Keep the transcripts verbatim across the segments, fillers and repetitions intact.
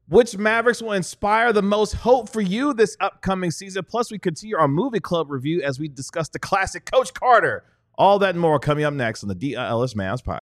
Which Mavericks will inspire the most hope for you this upcoming season? Plus, we continue our movie club review as we discuss the classic Coach Carter. All that and more coming up next on the D L S Mavs Podcast.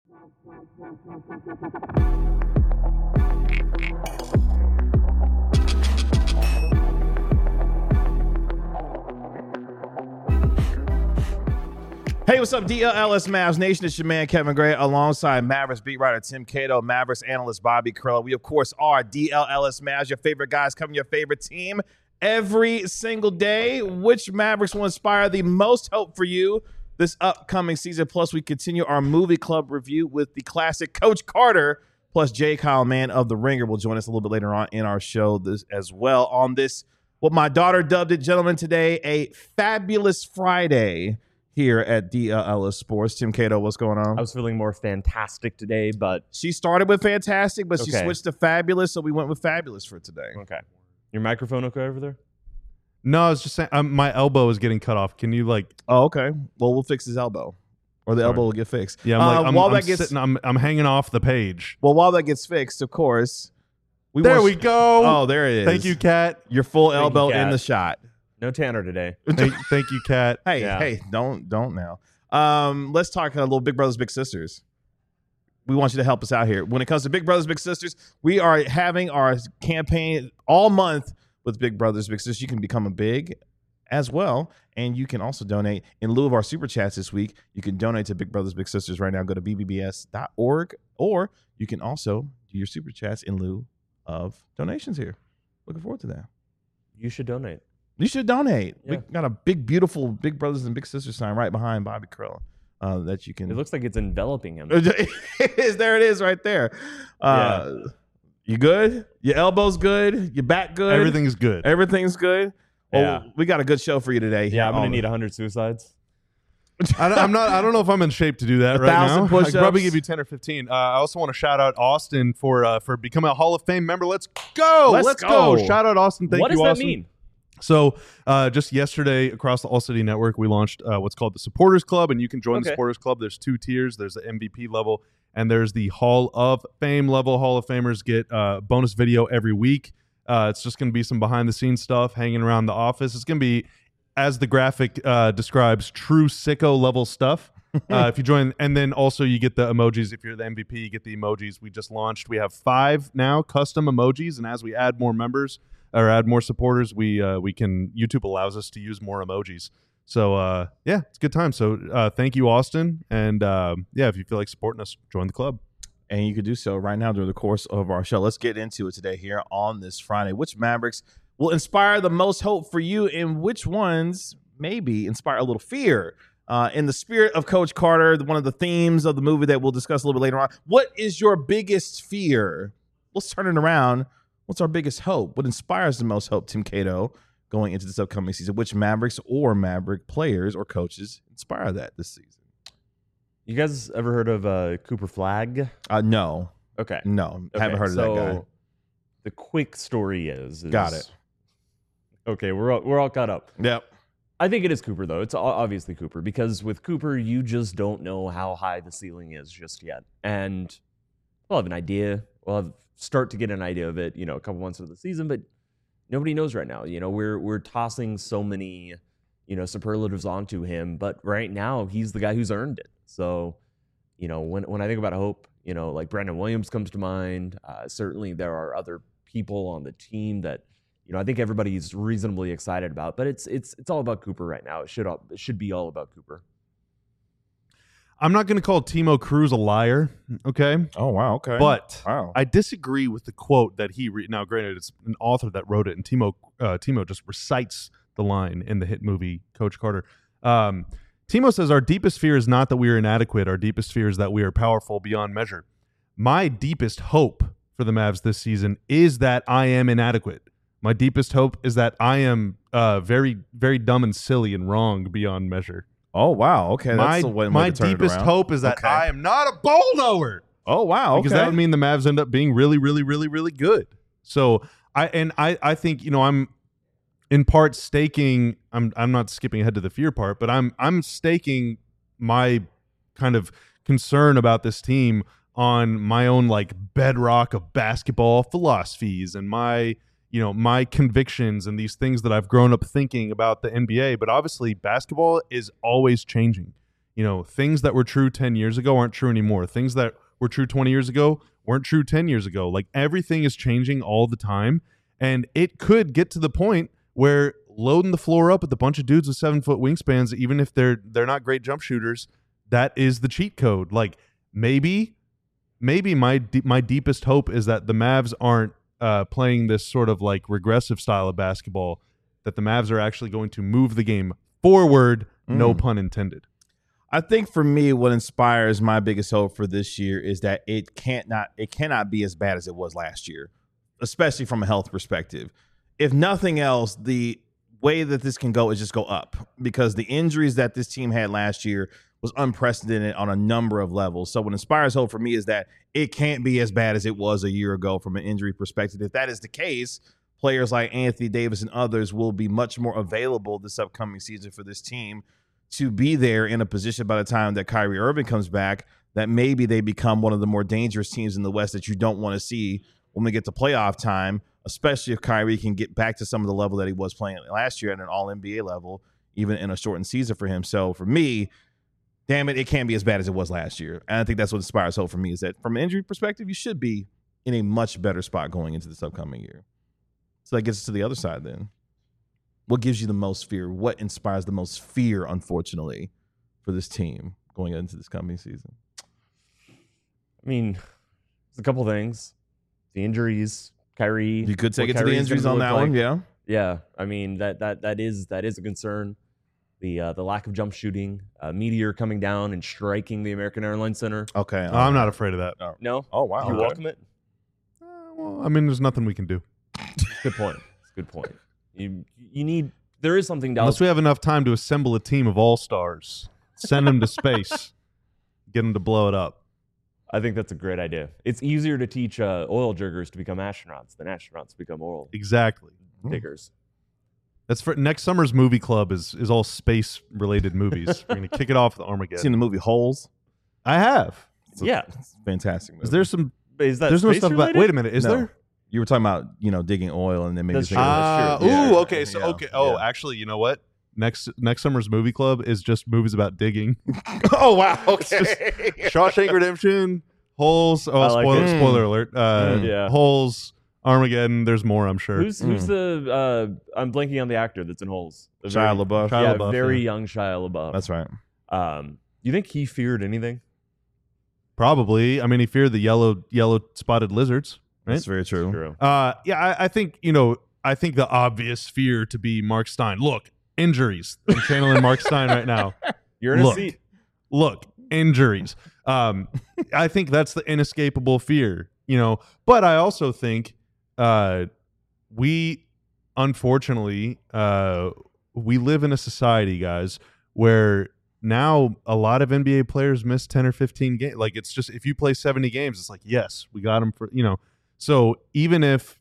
Hey, what's up, D L S Mavs Nation? It's your man, Kevin Gray, alongside Mavericks beat writer Tim Cato, Mavericks analyst Bobby Curl. We, of course, are D L S Mavs, your favorite guys covering your favorite team every single day. Which Mavericks will inspire the most hope for you this upcoming season? Plus, we continue our movie club review with the classic Coach Carter. Plus, Jay Kyle, man of The Ringer, will join us a little bit later on in our show this, as well on this, what my daughter dubbed it, gentlemen, today, a fabulous Friday here at D L S Sports. Tim Cato, what's going on? I was feeling more fantastic today, but... She started with fantastic, but okay. she switched to fabulous, so we went with fabulous for today. Okay. Your microphone okay over there? No, I was just saying, um, my elbow is getting cut off. Can you, like... Oh, okay. Well, we'll fix his elbow. Or the Sorry. elbow will get fixed. Yeah, I'm, like, uh, I'm, while I'm, that gets, sitting, I'm, I'm hanging off the page. Well, while that gets fixed, of course... We there want we you, go. Oh, there it is. Thank you, Kat. Your full Thank elbow you, in the shot. No Tanner today. thank, thank you, Kat. Hey, yeah. hey, don't, don't now. Um, let's talk a little Big Brothers Big Sisters. We want you to help us out here. When it comes to Big Brothers Big Sisters, we are having our campaign all month with Big Brothers Big Sisters. You can become a big as well, and you can also donate in lieu of our super chats this week. You can donate to Big Brothers Big Sisters right now. Go to b b b s dot org, or you can also do your super chats in lieu of donations here. Looking forward to that. You should donate. You should donate. Yeah. We got a big, beautiful Big Brothers and Big Sisters sign right behind Bobby Krill uh, that you can. It looks like it's enveloping him. It is. There it is right there. Uh, yeah. You good? Your elbow's good? Your back good? Everything's good. Everything's good? Well, yeah. we got a good show for you today. Yeah, I'm going to need one hundred suicides. I, I'm not. I don't know if I'm in shape to do that a right now. thousand push-ups. I could probably give you ten or fifteen. Uh, I also want to shout out Austin for uh, for becoming a Hall of Fame member. Let's go. Let's, Let's go. go. Shout out Austin. Thank what you, does that Austin. mean? So uh, just yesterday across the All City Network, we launched uh, what's called the Supporters Club, and you can join Okay. the Supporters Club. There's two tiers. There's the M V P level, and there's the Hall of Fame level. Hall of Famers get uh, bonus video every week. Uh, it's just going to be some behind-the-scenes stuff hanging around the office. It's going to be, as the graphic uh, describes, true sicko level stuff. uh, if you join, and then also you get the emojis. If you're the M V P, you get the emojis. We just launched. We have five now custom emojis, and as we add more members or add more supporters, we uh, we can YouTube allows us to use more emojis. So uh, yeah, it's a good time. So uh, thank you, Austin, and uh, yeah, if you feel like supporting us, join the club. And you can do so right now during the course of our show. Let's get into it today here on this Friday. Which Mavericks will inspire the most hope for you, and which ones maybe inspire a little fear? Uh, in the spirit of Coach Carter, one of the themes of the movie that we'll discuss a little bit later on. What is your biggest fear? Let's turn it around. What's our biggest hope? What inspires the most hope, Tim Cato, going into this upcoming season? Which Mavericks or Maverick players or coaches inspire that this season? You guys ever heard of uh, Cooper Flagg? Uh, no. Okay. No. Okay, Haven't heard of so that guy. The quick story is, is... Got it. Okay, we're all, we're all caught up. Yep. I think it is Cooper, though. It's obviously Cooper, because with Cooper, you just don't know how high the ceiling is just yet. And we'll have an idea. We'll have start to get an idea of it, you know, a couple months into the season, but nobody knows right now. You know, we're we're tossing so many, you know, superlatives onto him, but right now he's the guy who's earned it. So, you know, when when I think about hope, you know, like Brandon Williams comes to mind. Uh, certainly there are other people on the team that, you know, I think everybody's reasonably excited about, but it's it's it's all about Cooper right now. It should all, it should be all about Cooper. I'm not going to call Timo Cruz a liar, okay? Oh, wow, okay. But wow. I disagree with the quote that he re- now. Granted, it's an author that wrote it, and Timo uh, Timo just recites the line in the hit movie Coach Carter. Um, Timo says, "Our deepest fear is not that we are inadequate. Our deepest fear is that we are powerful beyond measure." My deepest hope for the Mavs this season is that I am inadequate. My deepest hope is that I am uh, very, very dumb and silly and wrong beyond measure. Oh, wow. Okay. My, That's the way, my way to turn it deepest around. hope is that Okay. I am not a ball knower. Oh, wow. Because okay. that would mean the Mavs end up being really, really, really, really good. So I and I, I think, you know, I'm in part staking. I'm I'm not skipping ahead to the fear part, but I'm I'm staking my kind of concern about this team on my own like bedrock of basketball philosophies and my you know my convictions and these things that I've grown up thinking about the N B A. But obviously, basketball is always changing. You know, things that were true ten years ago aren't true anymore. Things that were true twenty years ago weren't true ten years ago. Like everything is changing all the time, and it could get to the point where loading the floor up with a bunch of dudes with seven foot wingspans, even if they're they're not great jump shooters, that is the cheat code. Like maybe, maybe my de- my deepest hope is that the Mavs aren't uh, playing this sort of like regressive style of basketball. That the Mavs are actually going to move the game forward. Mm. No pun intended. I think for me, what inspires my biggest hope for this year is that it can't not it cannot be as bad as it was last year, especially from a health perspective. If nothing else, the way that this can go is just go up, because the injuries that this team had last year was unprecedented on a number of levels. So what inspires hope for me is that it can't be as bad as it was a year ago from an injury perspective. If that is the case, players like Anthony Davis and others will be much more available this upcoming season for this team to be there in a position by the time that Kyrie Irving comes back, that maybe they become one of the more dangerous teams in the West that you don't want to see when we get to playoff time, especially if Kyrie can get back to some of the level that he was playing last year at an all N B A level, even in a shortened season for him. So for me, damn it, it can't be as bad as it was last year. And I think that's what inspires hope for me, is that from an injury perspective, you should be in a much better spot going into this upcoming year. So that gets us to the other side then. What gives you the most fear? What inspires the most fear, unfortunately, for this team going into this coming season? I mean, there's a couple things. The injuries, Kyrie. You could take it to Kyrie's the injuries on that like. one, yeah. Yeah, I mean that that that is that is a concern. The uh, the lack of jump shooting, uh, meteor coming down and striking the American Airlines Center. Okay, oh, I'm not afraid of that. Oh. No. Oh wow. You okay. welcome it? Uh, well, I mean, there's nothing we can do. Good point. Good point. You you need there is something down. Unless we have enough time to assemble a team of all stars, send them to space, get them to blow it up. I think that's a great idea. It's easier to teach uh, oil jiggers to become astronauts than astronauts to become oil Exactly. diggers. That's for next summer's movie club is is all space related movies. We're gonna kick it off with Armageddon. Seen the movie Holes? I have. It's a, Yeah. it's a fantastic movie. Is there some? Is that There's no space stuff about. related? Wait a minute. Is No. there? You were talking about, you know, digging oil and then maybe That's thinking true. about- Uh, Yeah. ooh, okay. So Yeah. okay. Oh, Yeah. actually, you know what? Next next summer's movie club is just movies about digging. Oh wow. It's just Shawshank Redemption, Holes. Oh, I like spoiler it. spoiler alert. Uh, Mm. Yeah. Holes, Armageddon. There's more, I'm sure. Who's who's the? Uh, I'm blanking on the actor that's in Holes. The Shia very- LaBeouf. Shia yeah, LaBeouf, very yeah. young Shia LaBeouf. That's right. Um, you think he feared anything? Probably. I mean, he feared the yellow yellow spotted lizards. Right? That's very true. True. Uh, yeah, I, I think you know. I think the obvious fear to be Mark Stein. Look, injuries. I'm channeling Mark Stein right now. You're in a Look. seat. Look, injuries. Um, I think that's the inescapable fear, you know. But I also think uh, we, unfortunately, uh, we live in a society, guys, where now a lot of N B A players miss ten or fifteen games. Like, it's just, if you play seventy games, it's like, yes, we got them for, you know. So even if,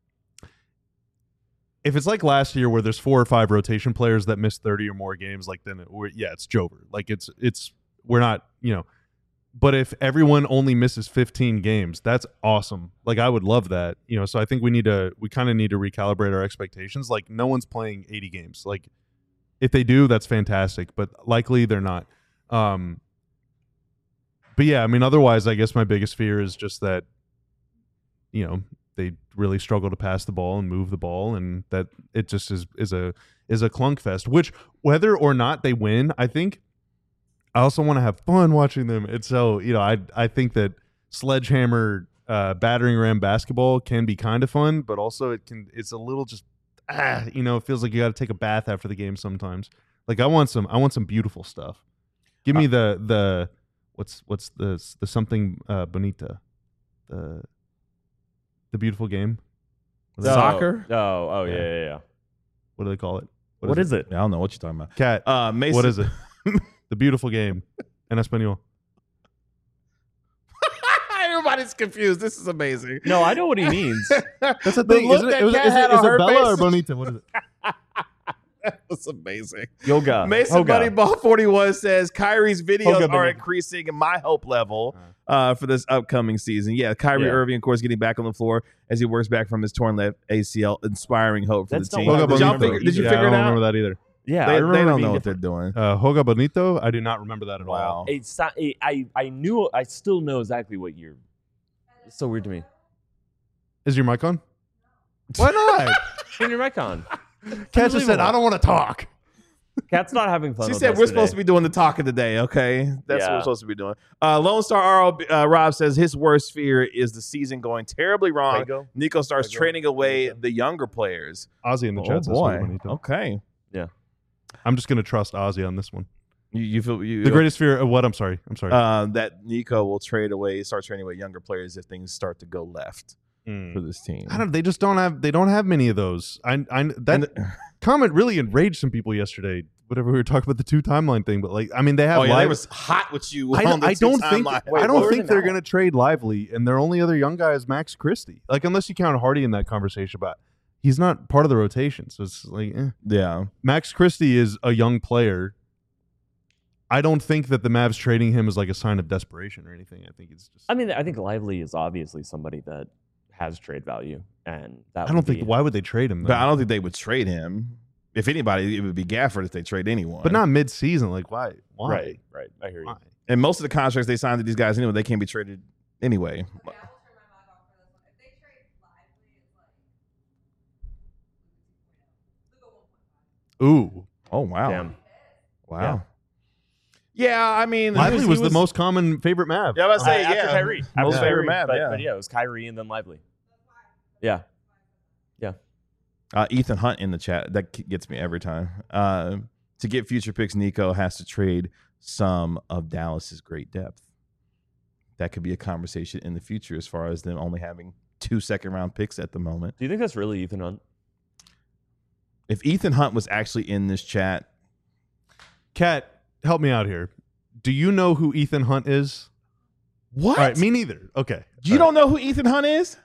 if it's like last year where there's four or five rotation players that miss thirty or more games, like then, it, we're, yeah, it's Jover. Like it's, it's, we're not, you know, but if everyone only misses fifteen games, that's awesome. Like I would love that, you know, so I think we need to, we kind of need to recalibrate our expectations. Like no one's playing eighty games. Like if they do, that's fantastic, but likely they're not. Um, but yeah, I mean, otherwise, I guess my biggest fear is just that, you know, they really struggle to pass the ball and move the ball, and that it just is is a is a clunk fest. Which whether or not they win, I think I also want to have fun watching them. And so you know, I I think that sledgehammer uh, battering ram basketball can be kind of fun, but also it can it's a little just ah you know it feels like you got to take a bath after the game sometimes. Like I want some I want some beautiful stuff. Give me uh, the the what's what's the the something uh, bonita the The beautiful game. Oh, Soccer? Oh, oh, yeah, Yeah. yeah, yeah. What do they call it? What is it? I don't know what you're talking about. Cat. Uh, Mason, What is it? The beautiful game. En español. Everybody's confused. This is amazing. No, I know what he means. That's the The thing. look Is it, that is it, Kat is had it, is on it her Bella face. or Bonita? What is it? That was amazing. Yoga. Mason Hoga. Buddy Ball forty-one says Kyrie's videos Hoga are Bonita. increasing my hope level. uh, for this upcoming season. Yeah, Kyrie Yeah. Irving, of course, getting back on the floor as he works back from his torn left A C L, inspiring hope for That's the not team. what I Did, y'all remember figure, did you yeah, figure I it don't out? remember that either. Yeah, They, I they remember don't being know what they're different. doing. Uh, Hoga Bonito, I do not remember that at all. Wow. It's not, it, I I knew I still know exactly what year. It's so weird to me. Is your mic on? Why not? Turn your mic on. Kat just said, I don't want to talk. Cat's not having fun. She with said us we're supposed to today. be doing the talking today, okay? That's what Yeah. we're supposed to be doing. Uh, Lone Star R O, uh, Rob says his worst fear is the season going terribly wrong. Fuego? Nico starts Fuego? trading away Fuego? the younger players. Ozzy in the Oh, chat says boy. Hoga Bonito. Okay. I'm just going to trust Ozzy on this one. You, you feel you, The greatest fear of what? I'm sorry. I'm sorry. uh, that Nico will trade away, start trading away younger players if things start to go left Mm. for this team. I don't. They just don't have. They don't have many of those. I. I that And the- comment really enraged some people yesterday. Whatever we were talking about the two timeline thing, but like, I mean, they have. oh yeah, live, they was hot with you. I, on the I don't two think. timeline. Wait, I what don't were think they they're now? going to trade Lively, and their only other young guy is Max Christie. Like, unless you count Hardy in that conversation, but he's not part of the rotation, so it's like, eh. Yeah. Max Christie is a young player. I don't think that the Mavs trading him is like a sign of desperation or anything. I think it's just. I mean, I think Lively is obviously somebody that has trade value, and that I don't would think. be- Why would they trade him? But Though? I don't think they would trade him. If anybody, it would be Gafford if they trade anyone. But not mid-season. Like, why? Why? Right, right. I hear you. Why? And most of the contracts they signed to these guys anyway, they can't be traded anyway. Okay, I will turn my mic off for this one. If they trade Lively, it's like Luka one point five. Ooh, Oh wow. Damn. Wow. Yeah, I mean, Lively he was, the was- most common favorite Mav. Yeah, I was Uh, say after yeah. Kyrie. Most After favorite Kyrie, Mav, but, yeah. but yeah, it was Kyrie and then Lively. Yeah. Uh, Ethan Hunt in the chat. That k- gets me every time. Uh, to get future picks, Nico has to trade some of Dallas's great depth. That could be a conversation in the future as far as them only having two second round picks at the moment. Do you think that's really Ethan Hunt? If Ethan Hunt was actually in this chat, Kat, help me out here. Do you know who Ethan Hunt is? what? All right, me neither. Okay. You don't know who Ethan Hunt is?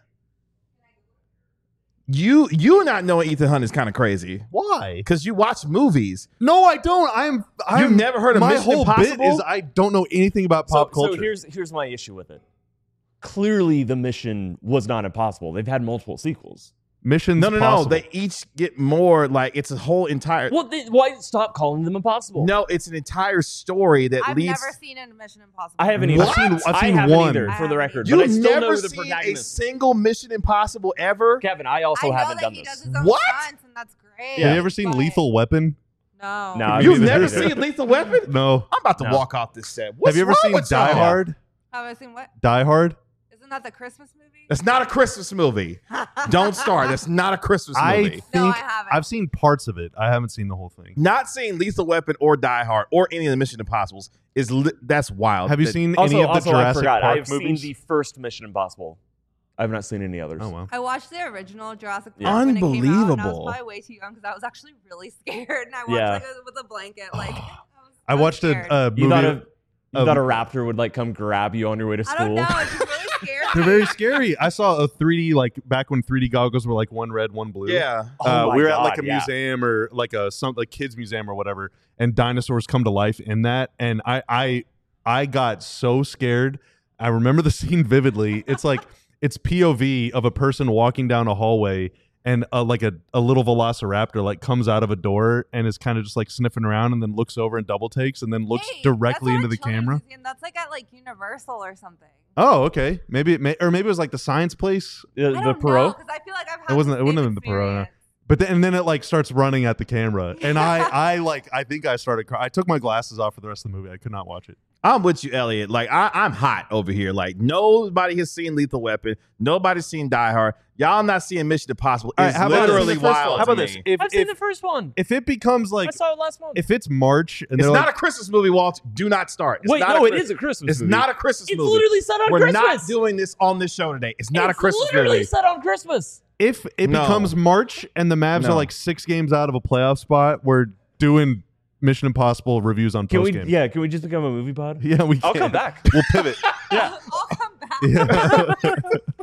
You you not knowing Ethan Hunt is kind of crazy Why? because you watch movies. No, I don't. I'm. I'm You've never heard of my Mission whole Impossible? bit is I don't know anything about pop so, culture. So here's here's my issue with it. Clearly, the mission was not impossible. They've had multiple sequels. Missions. No, no, possible. no. They each get more like it's a whole entire. Well, they, why stop calling them impossible? No, it's an entire story that I've leads. never seen a Mission Impossible. I haven't What? either. I've seen- I've I seen haven't one. either, I for the haven't record. You've but I still never know the seen a protagonist. single Mission Impossible ever. Kevin, I also I know haven't that done he this. does his own What? stunts, and that's great. Yeah. Have you ever seen but- Lethal Weapon? No. No, I've You've neither never either. seen Lethal Weapon? No. I'm about to No. walk off this set. What's Have you ever wrong seen with Die y'all? Hard? Have I seen what? Die Hard. Isn't that the Christmas movie? That's not a Christmas movie. Don't start. That's not a Christmas I movie. think No, I haven't. I've seen parts of it. I haven't seen the whole thing. Not seeing Lethal Weapon or Die Hard or any of the Mission Impossibles is li- that's wild. Have you That- seen Also, any of the also I Jurassic forgot. Park I've movies? seen the first Mission Impossible. I have not seen any others. Oh wow. I watched the original Jurassic Park Yeah. when it came out, and I Unbelievable. was probably way too young because I was actually really scared, and I watched Yeah. like a, with a blanket. Like I, was, I was watched a, scared. a movie. You thought a you of- thought a raptor would like come grab you on your way to I school? don't know. It's just really scary. They're very scary. I saw a three D like back when three D goggles were like one red, one blue. Yeah. Oh uh, my we were at God, like a yeah. museum or like a some like kids museum or whatever, and dinosaurs come to life in that, and I I I got so scared. I remember the scene vividly. It's like it's P O V of a person walking down a hallway, and uh, like a, a little velociraptor like comes out of a door and is kind of just like sniffing around, and then looks over and double takes, and then looks Hey, directly that's into not the a children's camera. museum. That's like at like Universal or something. Oh, okay. Maybe it may, or maybe it was like the science place. The, I the don't Perot? because I feel like I've It had. wasn't- the it wouldn't same have been the Perot, no. experience. But then, and then it like starts running at the camera, and I, I like, I think I started crying. I took my glasses off for the rest of the movie. I could not watch it. I'm with you, Elliot. Like I, I'm hot over here. Like nobody has seen Lethal Weapon. Nobody's seen Die Hard. Y'all not seeing Mission Impossible. All right, It's how about this? literally The first wild. one. How about to this? me. If I've seen if, the first one. if it becomes like, I saw it last month. if it's March and It's they're not like, a Christmas movie, Walt. Do not start. It's Wait, not no, a it Chris- is a Christmas It's movie. not a Christmas It's movie. literally set on We're Christmas. not doing this on this show today. It's not it's a Christmas literally movie. set on Christmas. if it No. becomes March and the Mavs No. are like six games out of a playoff spot, we're doing Mission Impossible reviews on Can we? post game. Yeah, can we just become a movie pod? yeah, we. I'll can. come back. We'll pivot. Yeah. I'll come back. Yeah.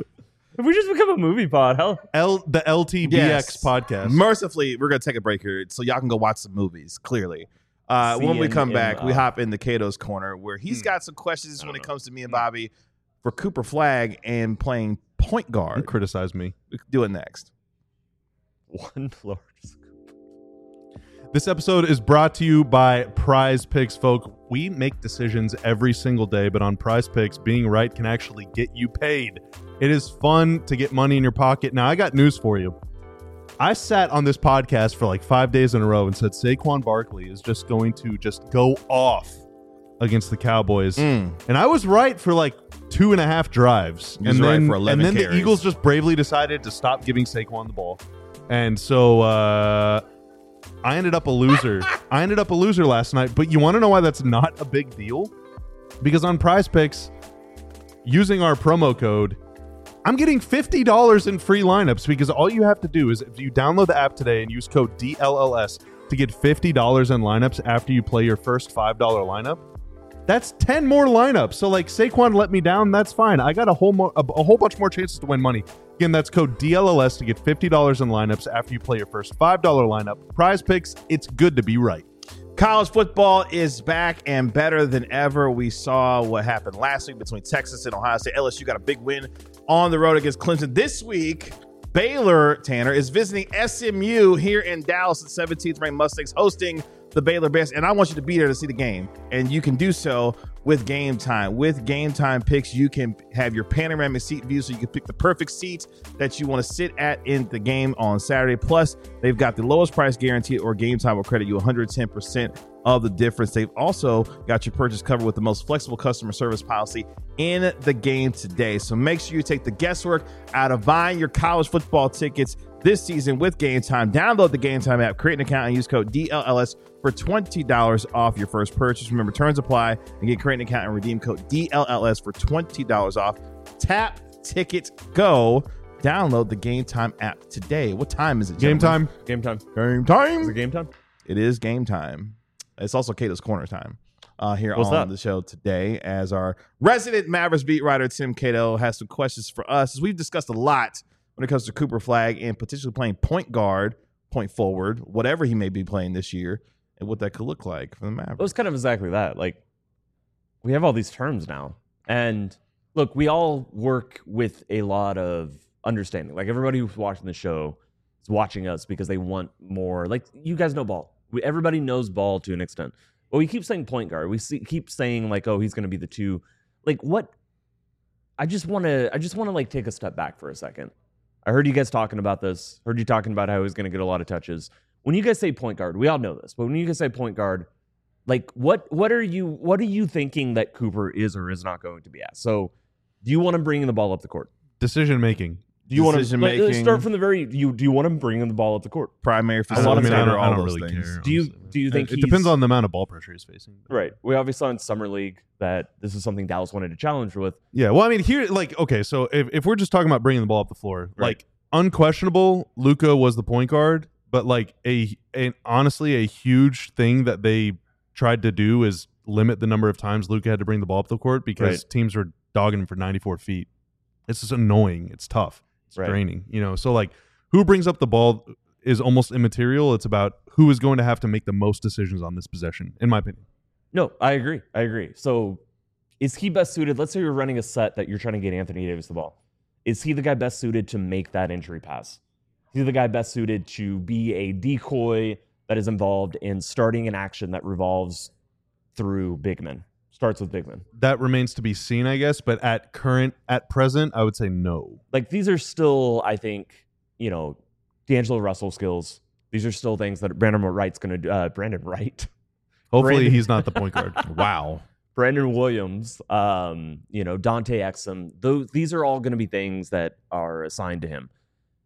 If we just become a movie pod, hell. L the L T B X Yes. podcast. Mercifully, we're gonna take a break here so y'all can go watch some movies. Clearly, uh, See when we in- come in, back, we uh, hop into Cato's corner where he's Hmm. got some questions I when don't it know. comes to me and Bobby. for Cooper Flagg and playing point Don't guard. criticize me. We could do it next. One Florida. This episode is brought to you by Prize Picks, folk. We make decisions every single day, but on Prize Picks, being right can actually get you paid. It is fun to get money in your pocket. Now, I got news for you. I sat on this podcast for like five days in a row and said Saquon Barkley is just going to just go off against the Cowboys. Mm. And I was right for like two and a half drives. You was and right then, for eleven and then the carries. Eagles just bravely decided to stop giving Saquon the ball. And so uh, I ended up a loser. I ended up a loser last night. But you want to know why that's not a big deal? Because on Prize Picks, using our promo code, I'm getting fifty dollars in free lineups, because all you have to do is if you download the app today and use code D L L S to get fifty dollars in lineups after you play your first five dollar lineup. That's ten more lineups. So like Saquon let me down, that's fine. I got a whole mo- a, a whole bunch more chances to win money. Again, that's code D L L S to get fifty dollars in lineups after you play your first five dollar lineup. Prize Picks, it's good to be right. College football is back and better than ever. We saw what happened last week between Texas and Ohio State. L S U got a big win on the road against Clemson. This week, Baylor, Tanner, is visiting S M U here in Dallas. The seventeenth ranked Mustangs hosting the Baylor Bears. And I want you to be there to see the game. And you can do so with Game Time. With Game Time picks, you can have your panoramic seat view, so you can pick the perfect seat that you want to sit at in the game on Saturday. Plus, they've got the lowest price guarantee, or Game Time will credit you one hundred ten percent of the difference. They've also got your purchase covered with the most flexible customer service policy in the game today. So make sure you take the guesswork out of buying your college football tickets this season with Game Time. Download the Game Time app, create an account, and use code D L L S for twenty dollars off your first purchase. Remember, terms apply, and get create an account and redeem code D L L S for twenty dollars off. Tap, ticket, go. Download the Game Time app today. What time is it, Game gentlemen? time. Game time. Game Is time. it game time? It is game time. It's also Cato's Corner time uh, here What's on that? the show today, as our resident Mavericks beat writer, Tim Cato, has some questions for us. As we've discussed a lot when it comes to Cooper Flagg and potentially playing point guard, point forward, whatever he may be playing this year, and what that could look like for the Mavericks. It was kind of exactly that. Like, we have all these terms now. And look, we all work with a lot of understanding. Like, everybody who's watching the show is watching us because they want more. Like, you guys know ball. We, everybody knows ball to an extent. But we keep saying point guard. We see, keep saying, like, oh, he's going to be the two. Like, what? I just want to, I just want to, like, take a step back for a second. I heard you guys talking about this. Heard you talking about how he's going to get a lot of touches. When you guys say point guard, we all know this, but when you guys say point guard, like what what are you what are you thinking that Cooper is or is not going to be at? So, do you want him bringing the ball up the court? Decision making. Do you want to Decision like, let's making. start from the very? Do you do you want him bringing the ball up the court? Primary I don't, I mean, I facilitator, don't, I all don't those really things. care. Do you honestly. do you think it he's, depends on the amount of ball pressure he's facing? right? We obviously saw in summer league that this is something Dallas wanted to challenge with. Yeah. Well, I mean, here, like, okay, so if, if we're just talking about bringing the ball up the floor, Right. like, unquestionable, Luka was the point guard, but like a, a honestly a huge thing that they tried to do is limit the number of times Luka had to bring the ball up the court because Right. teams were dogging him for ninety-four feet. It's just annoying. It's tough. It's Right. draining. You know, so like who brings up the ball is almost immaterial. It's about who is going to have to make the most decisions on this possession, in my opinion. No, I agree. I agree. So, is he best suited? Let's say you're running a set that you're trying to get Anthony Davis the ball. Is he the guy best suited to make that entry pass? Is he the guy best suited to be a decoy that is involved in starting an action that revolves through big men? Starts with big men. That remains to be seen, I guess. But at current, at present, I would say no. Like, these are still, I think, you know, D'Angelo Russell skills. These are still things that Brandon Wright's going to do. Uh, Brandon Wright. Hopefully, Brandon- he's not the point guard. Wow. Brandon Williams, um, you know, Dante Exum. Those, these are all going to be things that are assigned to him.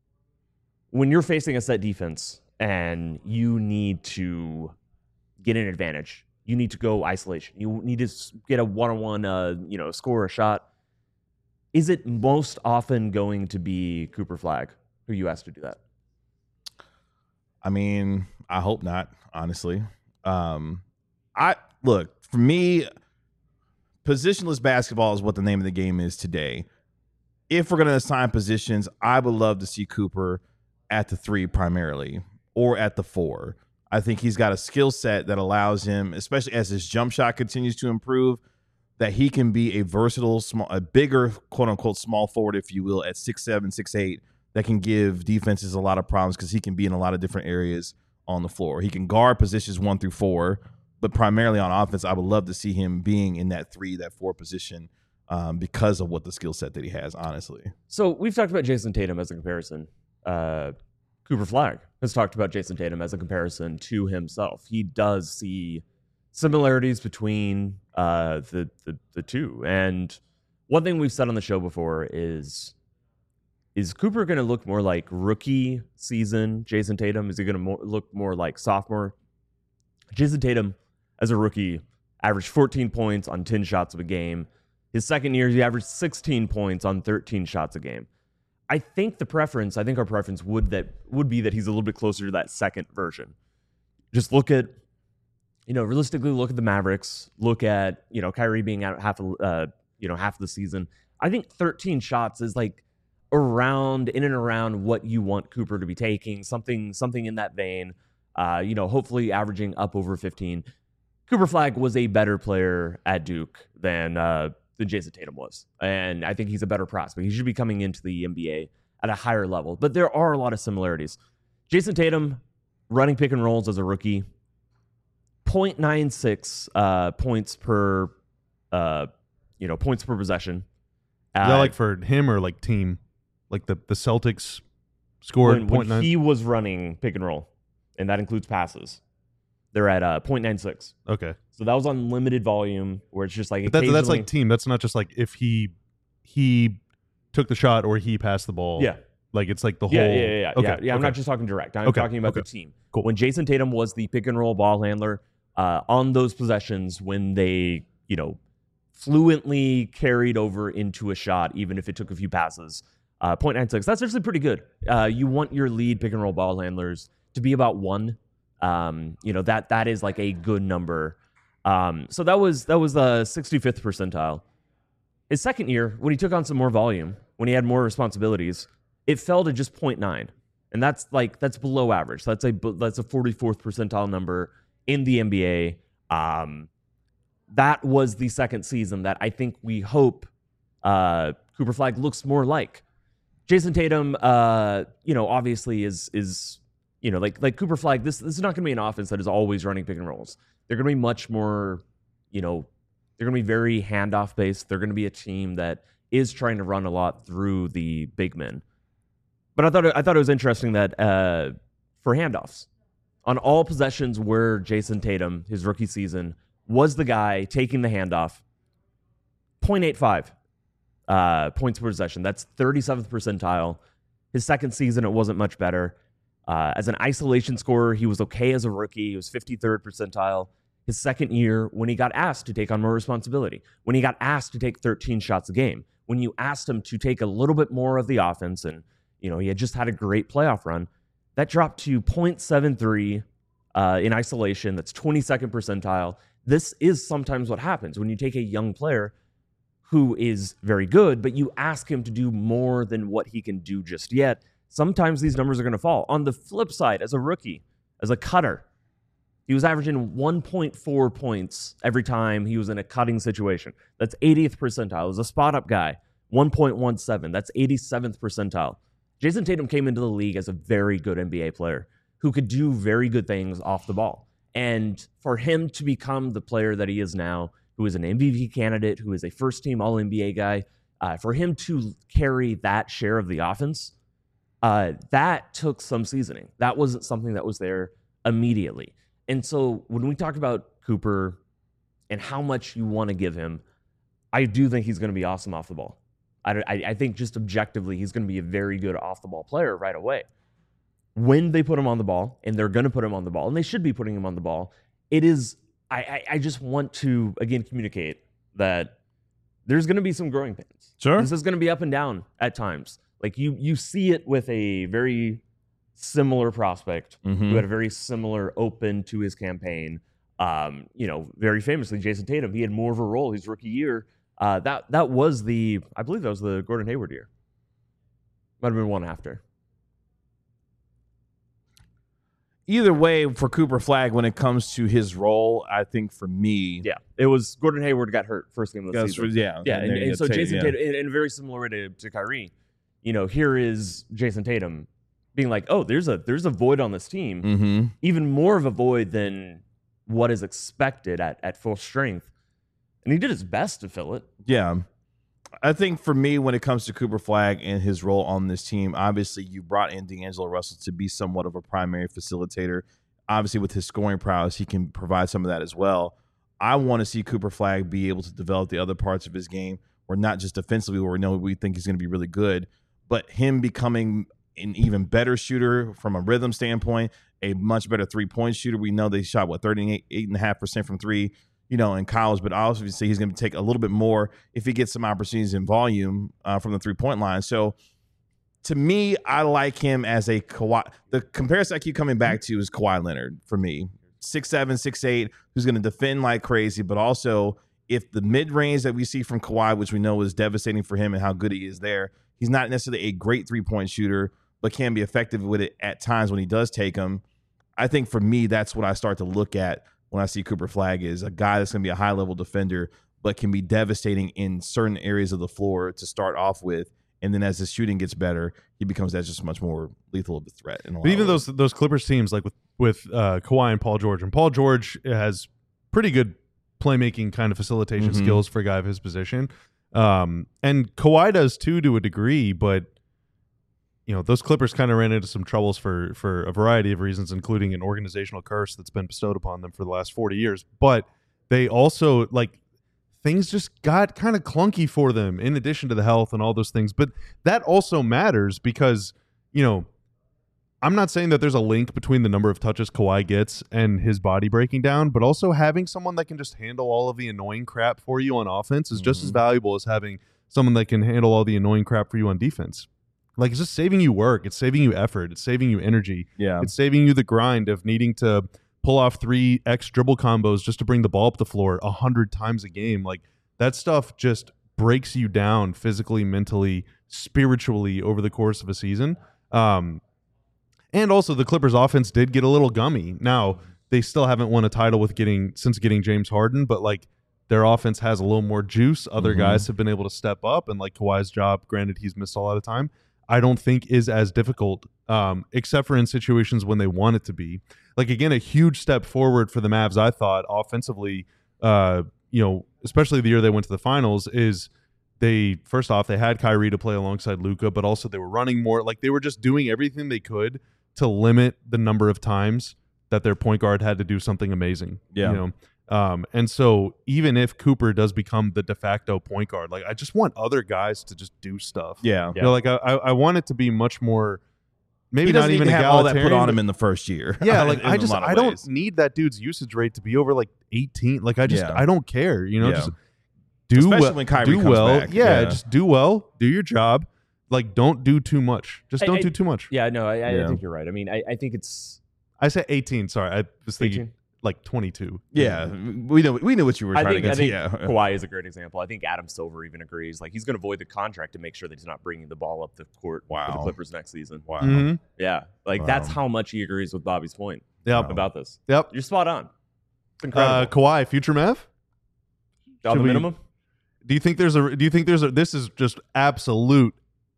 When you're facing a set defense and you need to get an advantage, you need to go isolation. You need to s- get a one-on-one, uh, you know, score a shot. Is it most often going to be Cooper Flagg who you ask to do that? I mean, I hope not, honestly. Um, I look, for me, positionless basketball is what the name of the game is today. If we're going to assign positions, I would love to see Cooper at the three primarily or at the four. I think he's got a skill set that allows him, especially as his jump shot continues to improve, that he can be a versatile, small, a bigger quote unquote small forward, if you will, at six seven, six eight, that can give defenses a lot of problems because he can be in a lot of different areas on the floor. He can guard positions one through four, but primarily on offense, I would love to see him being in that three, that four position um, because of what the skill set that he has, honestly. So we've talked about Jason Tatum as a comparison. Uh, Cooper Flag has talked about Jason Tatum as a comparison to himself. He does see similarities between uh, the, the the two. And one thing we've said on the show before is, is Cooper going to look more like rookie season Jason Tatum? Is he going to more, look more like sophomore? Jason Tatum, as a rookie, averaged fourteen points on ten shots of a game. His second year, he averaged sixteen points on thirteen shots a game. I think the preference, I think our preference would that would be that he's a little bit closer to that second version. Just look at, you know, realistically look at the Mavericks. Look at, you know, Kyrie being out half of, uh, you know, half of the season. I think thirteen shots is like around, in and around what you want Cooper to be taking. Something, something in that vein. Uh, you know, hopefully averaging up over fifteen. Cooper Flag was a better player at Duke than uh, than Jason Tatum was, and I think he's a better prospect. He should be coming into the N B A at a higher level, but there are a lot of similarities. Jason Tatum running pick and rolls as a rookie, zero point nine six uh, points per, uh, you know, points per possession. Is Uh, that like for him or like team? Like the, the Celtics scored when, point when nine? he was running pick and roll, and that includes passes. They're at uh, zero point nine six. Okay. So that was on limited volume, where it's just like But that's, that's occasionally- like team. That's not just like if he he took the shot or he passed the ball. yeah, Like it's like the yeah, whole. yeah, yeah, yeah. Okay. yeah, yeah I'm okay. not just talking direct. I'm Okay, talking about okay. the team. Cool. When Jason Tatum was the pick and roll ball handler uh, on those possessions, when they, you know, fluently carried over into a shot, even if it took a few passes, uh, zero point nine six. That's actually pretty good. Uh, you want your lead pick and roll ball handlers to be about one. Um, you know, that that is like a good number. Um, so that was that was the sixty-fifth percentile. His second year, when he took on some more volume, when he had more responsibilities, it fell to just zero point nine, and that's like that's below average. That's a that's a forty-fourth percentile number in the N B A. Um, that was the second season that I think we hope uh, Cooper Flag looks more like Jason Tatum. Uh, you know, obviously is is. You know, like like Cooper Flag, this this is not going to be an offense that is always running pick and rolls. They're going to be much more, you know, they're going to be very handoff based. They're going to be a team that is trying to run a lot through the big men. But I thought it, I thought it was interesting that uh, for handoffs, on all possessions where Jason Tatum, his rookie season, was the guy taking the handoff, zero point eight five uh, points per possession. That's thirty-seventh percentile. His second season, it wasn't much better. Uh, as an isolation scorer, he was okay as a rookie. He was fifty-third percentile. His second year, when he got asked to take on more responsibility, when he got asked to take thirteen shots a game, when you asked him to take a little bit more of the offense, and you know he had just had a great playoff run, that dropped to zero point seven three uh, in isolation. That's twenty-second percentile. This is sometimes what happens when you take a young player who is very good, but you ask him to do more than what he can do just yet. Sometimes these numbers are going to fall. On the flip side, as a rookie, as a cutter, he was averaging one point four points every time he was in a cutting situation. That's eightieth percentile. As a spot-up guy, one point one seven. That's eighty-seventh percentile. Jason Tatum came into the league as a very good N B A player who could do very good things off the ball. And for him to become the player that he is now, who is an M V P candidate, who is a first-team All N B A guy, uh, for him to carry that share of the offense, Uh, that took some seasoning. That wasn't something that was there immediately. And so when we talk about Cooper and how much you want to give him, I do think he's going to be awesome off the ball. I, I, I think just objectively, he's going to be a very good off-the-ball player right away. When they put him on the ball, and they're going to put him on the ball, and they should be putting him on the ball, it is, I, I, I just want to, again, communicate that there's going to be some growing pains. Sure. This is going to be up and down at times. Like you, you see it with a very similar prospect Mhm. who had a very similar open to his campaign. Um, you know, very famously, Jason Tatum. He had more of a role his rookie year. Uh, that that was the, I believe that was the Gordon Hayward year. Might have been one after. either way, for Cooper Flagg, when it comes to his role, I think for me, Yeah, it was Gordon Hayward got hurt first game of the that's- season. yeah, Yeah, and, then you and so take- Jason yeah. Tatum, in, in a very similar way to, to Kyrie, you know, here is Jason Tatum being like, oh, there's a there's a void on this team, Mm-hmm. even more of a void than what is expected at, at full strength. And he did his best to fill it. Yeah. I think for me, when it comes to Cooper Flagg and his role on this team, obviously you brought in D'Angelo Russell to be somewhat of a primary facilitator. Obviously, with his scoring prowess, he can provide some of that as well. I want to see Cooper Flagg be able to develop the other parts of his game, or not just defensively, where we know we think he's going to be really good, but him becoming an even better shooter from a rhythm standpoint, a much better three-point shooter. We know they shot, what, thirty-eight point five percent from three, you know, in college, but obviously he's going to take a little bit more if he gets some opportunities in volume uh, from the three-point line. So to me, I like him as a Kawhi. The comparison I keep coming back to is Kawhi Leonard for me. six seven, six eight, who's going to defend like crazy, but also if the mid-range that we see from Kawhi, which we know is devastating for him and how good he is there, he's not necessarily a great three-point shooter, but can be effective with it at times when he does take them. I think for me, that's what I start to look at when I see Cooper Flagg, is a guy that's going to be a high-level defender, but can be devastating in certain areas of the floor to start off with. And then as his shooting gets better, he becomes that just much more lethal of a threat. In a lot But even of ways. those those Clippers teams, like with with uh, Kawhi and Paul George, and Paul George has pretty good playmaking kind of facilitation Mhm. skills for a guy of his position, um, and Kawhi does too to a degree. But you know, those Clippers kind of ran into some troubles for for a variety of reasons, including an organizational curse that's been bestowed upon them for the last forty years. But they also, like, things just got kind of clunky for them in addition to the health and all those things. But that also matters because, you know, I'm not saying that there's a link between the number of touches Kawhi gets and his body breaking down, but also having someone that can just handle all of the annoying crap for you on offense is just as Mhm. valuable as having someone that can handle all the annoying crap for you on defense. Like, it's just saving you work. It's saving you effort. It's saving you energy. yeah. It's saving you the grind of needing to pull off three X dribble combos just to bring the ball up the floor a hundred times a game. Like, that stuff just breaks you down physically, mentally, spiritually over the course of a season. Um, and also, the Clippers offense did get a little gummy. Now, they still haven't won a title with getting since getting James Harden, but like, their offense has a little more juice. Other Mhm. guys have been able to step up, and like Kawhi's job, granted he's missed a lot of time, I don't think is as difficult, um, except for in situations when they want it to be. Like, again, a huge step forward for the Mavs, I thought, offensively, uh, you know, especially the year they went to the finals, is they, first off, they had Kyrie to play alongside Luka, but also they were running more. Like, they were just doing everything they could to limit the number of times that their point guard had to do something amazing. Yeah. You know? Um, and so even if Cooper does become the de facto point guard, like, I just want other guys to just do stuff. Yeah. You know, like I, I I want it to be much more, maybe He not doesn't even even have all that put egalitarian, on him but- in the first year. yeah, like in I a just lot of I don't ways. need that dude's usage rate to be over like eighteen. Like, I just Yeah. I don't care. You know, Yeah. just do Especially well. when Kyrie do comes well. back. Yeah, Yeah. just do well. Do your job. Like, don't do too much. Just I- don't I- do too much. Yeah, no, I, I Yeah. think you're right. I mean, I, I think it's I said eighteen. Sorry, I was thinking eighteen. like twenty-two. Yeah, we know we knew what you were I trying think, to I get think to. Yeah. Kawhi is a great example. I think Adam Silver even agrees. Like, he's going to void the contract to make sure that he's not bringing the ball up the court for the Wow. Clippers next season. Wow. Mhm. Yeah, like that's Wow. how much he agrees with Bobby's point Yep. about this. Yep. You're spot on. It's Uh, incredible. Kawhi, future Mav. On should the we- minimum. Do you think there's a? Do you think there's a? This is just absolute.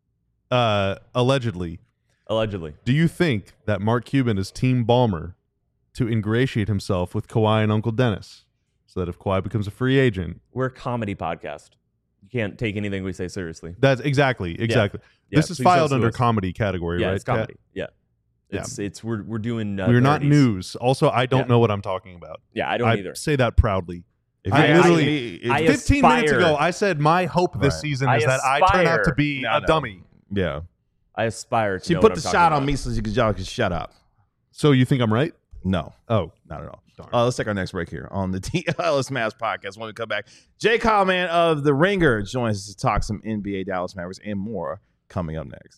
Uh, allegedly, Allegedly. do you think that Mark Cuban is Team Ballmer to ingratiate himself with Kawhi and Uncle Dennis, so that if Kawhi becomes a free agent, We're a comedy podcast. You can't take anything we say seriously. that's exactly exactly. Yeah, this is please filed don't sue under us. comedy category, Yeah, right? it's comedy. Yeah. It's it's we're we're doing uh, We're not nerdies. news. Also, I don't Yeah. know what I'm talking about. Yeah, I don't I either. say that proudly. If I you- literally- if- I Fifteen minutes aspire- ago, I said my hope this Right. season I is that I turn out to aspire- be No, a no. dummy. yeah. I aspire to She know put what the I'm shot talking on about. me so you could, y'all could shut up. So you think I'm right? No, Oh, not at all. darn. Uh, let's take our next break here on the D L L S Mavs podcast. When we come back, Jay Kyle-Man of The Ringer joins us to talk some N B A, Dallas Mavericks, and more coming up next.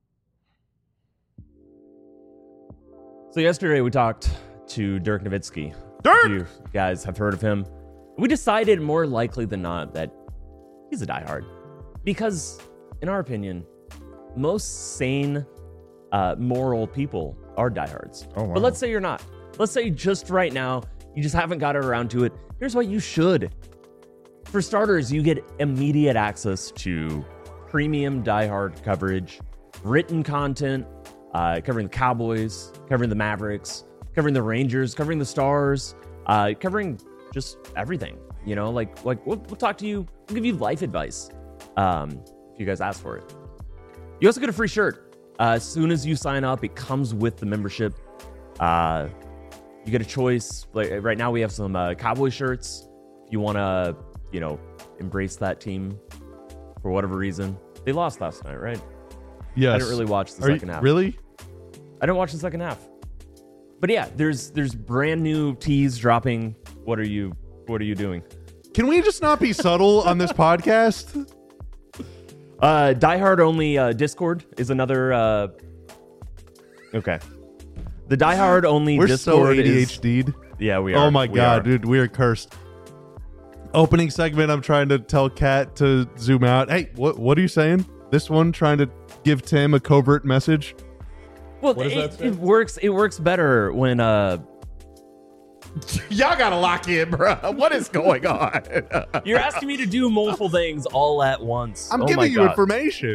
So yesterday we talked to Dirk Nowitzki. Dirk! You guys have heard of him. We decided more likely than not that he's a diehard. Because, in our opinion, most sane uh, moral people are diehards. Oh, wow. But let's say you're not. Let's say just right now, you just haven't got around to it. Here's what you should. For starters, you get immediate access to premium diehard coverage, written content, uh, covering the Cowboys, covering the Mavericks, covering the Rangers, covering the Stars, uh, covering just everything. You know, like like we'll, we'll talk to you. We'll give you life advice um, if you guys ask for it. You also get a free shirt. Uh, as soon as you sign up, it comes with the membership. Uh, you get a choice. Like right now, we have some uh, Cowboy shirts. If you want to, you know, embrace that team for whatever reason. They lost last night, right? Yes. I didn't really watch the Are second you, half. Really? I didn't watch the second half. But yeah, there's there's brand new teas dropping. What are you What are you doing? Can we just not be subtle on this podcast? Uh, diehard only uh, Discord is another. Uh... Okay. The diehard only We're Discord so A D is. H D'd. Yeah, we are. Oh my We god, are. dude, we are cursed. Opening segment, I'm trying to tell Kat to zoom out. Hey, what what are you saying? This one trying to give Tim a covert message. Well, What does that it, say? it works. It works better when uh Y'all gotta lock in, bro. What is going on? you're asking me to do multiple things all at once. I'm Oh my giving you God. information.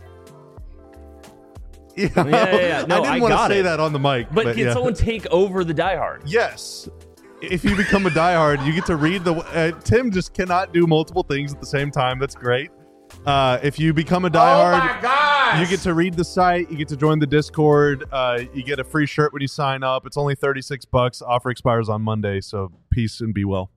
Yeah, yeah, yeah. No, I didn't I want to got say it. that on the mic. But, But, can yeah. someone take over the diehard? Yes. If you become a diehard, you get to read the. Uh, Tim just cannot do multiple things at the same time. That's great. Uh, if you become a diehard, Oh my gosh! you get to read the site. You get to join the Discord. Uh, you get a free shirt when you sign up. It's only thirty-six bucks. Offer expires on Monday. So peace and be well.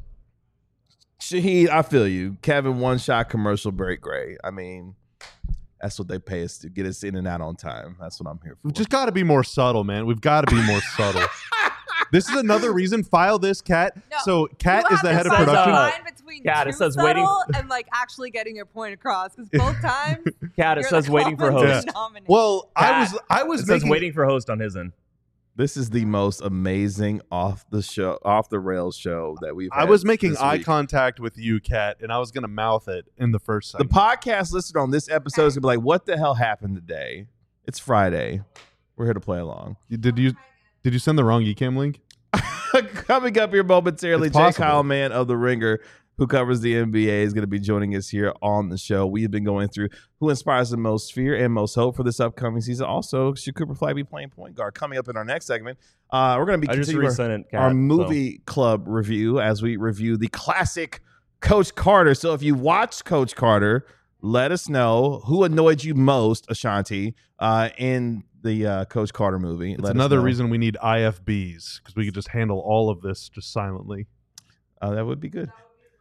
Shahid, I feel you. Kevin, one shot commercial break, great. I mean, that's what they pay us to get us in and out on time. That's what I'm here for. We've just got to be more subtle, man. We've got to be more subtle. This is another reason. File this, Kat. No, So Kat You is the have head to of find the production. Uh, line between Kat, it too says waiting- subtle and like actually getting your point across, because both times Cat, it you're says the waiting for common host. denominator. Well, I Kat, was I was It says making, waiting for host on his end. This is the most amazing off the show, off the rails show that we've. I had was making this eye week. contact with you, Kat, and I was gonna mouth it in the first The segment. podcast listed on this episode is gonna be like, "What the hell happened today?" It's Friday. We're here to play along. Did you did you send the wrong eCam link? Coming up here momentarily, It's Jay possible. Kyle, man of the Ringer, who covers the N B A, is going to be joining us here on the show. We've been going through who inspires the most fear and most hope for this upcoming season. Also, should Cooper Flag be playing point guard? Coming up in our next segment, uh, we're going to be I just continuing our, resent it, Kat, our so- movie club review as we review the classic Coach Carter. So if you watched Coach Carter, let us know who annoyed you most, Ashanti, uh, in the uh, Coach Carter movie. It's Let us another know. reason we need I F Bs, because we could just handle all of this just silently. Uh, that would be good.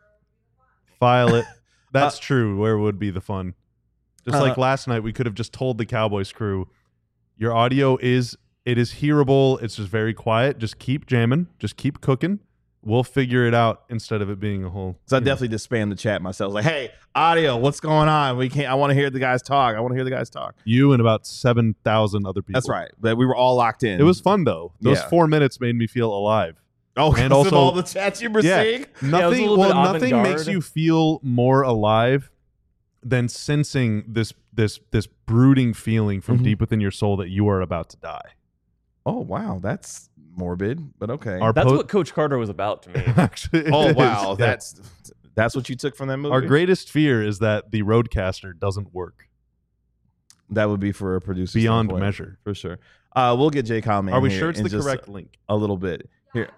File it. That's true. Where would be the fun? Just Uh, like last night, we could have just told the Cowboys crew, your audio is it is hearable. It's just very quiet. Just keep jamming. Just keep cooking. We'll figure it out instead of it being a whole. So I you know. definitely just spammed the chat myself. Like, hey, audio, what's going on? We can't. I want to hear the guys talk. I want to hear the guys talk. You and about seven thousand other people. That's right. But we were all locked in. It was fun though. Those Yeah. four minutes made me feel alive. Oh, and and also- also all the chats you were Yeah. seeing. Yeah, it was a Nothing. little well, bit nothing avant-garde. makes you feel more alive than sensing this this this brooding feeling from Mhm. deep within your soul that you are about to die. Oh wow, that's morbid, but okay. Our That's po- what Coach Carter was about to me. Actually, it oh is. wow, Yeah. that's that's what you took from that movie. Our greatest fear is that the Roadcaster doesn't work that would be for a producer beyond standpoint, measure. for sure. Uh, we'll get Jay Kyle, man. Are we here sure it's in the just correct link? A little bit here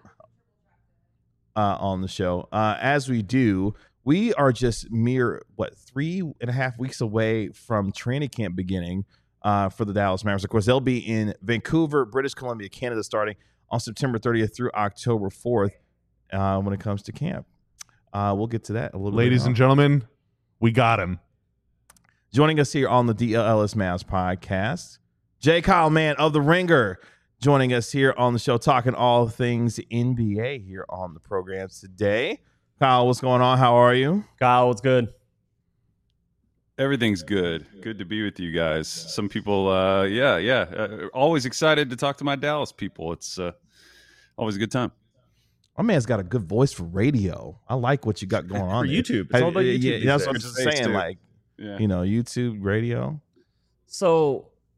uh, on the show. Uh, as we do, we are just mere what three and a half weeks away from training camp beginning uh, for the Dallas Mavericks. Of course, they'll be in Vancouver, British Columbia, Canada, starting on September thirtieth through October fourth. Uh, when it comes to camp, uh, we'll get to that a little. Ladies bit and gentlemen, we got him. Joining us here on the D L L S Mavs podcast, Jay Kyle, man of the Ringer, joining us here on the show, talking all things N B A here on the program today. Kyle, what's going on? How are you? Kyle, what's good? Everything's good. Good to be with you guys. Some people, uh, yeah, yeah. Uh, always excited to talk to my Dallas people. It's uh, always a good time. My man's got a good voice for radio. I like what you got going on For there. YouTube. It's all about Yeah, YouTube yeah, these that's what I'm days. saying. Too. Like, Yeah. you know, YouTube, radio. So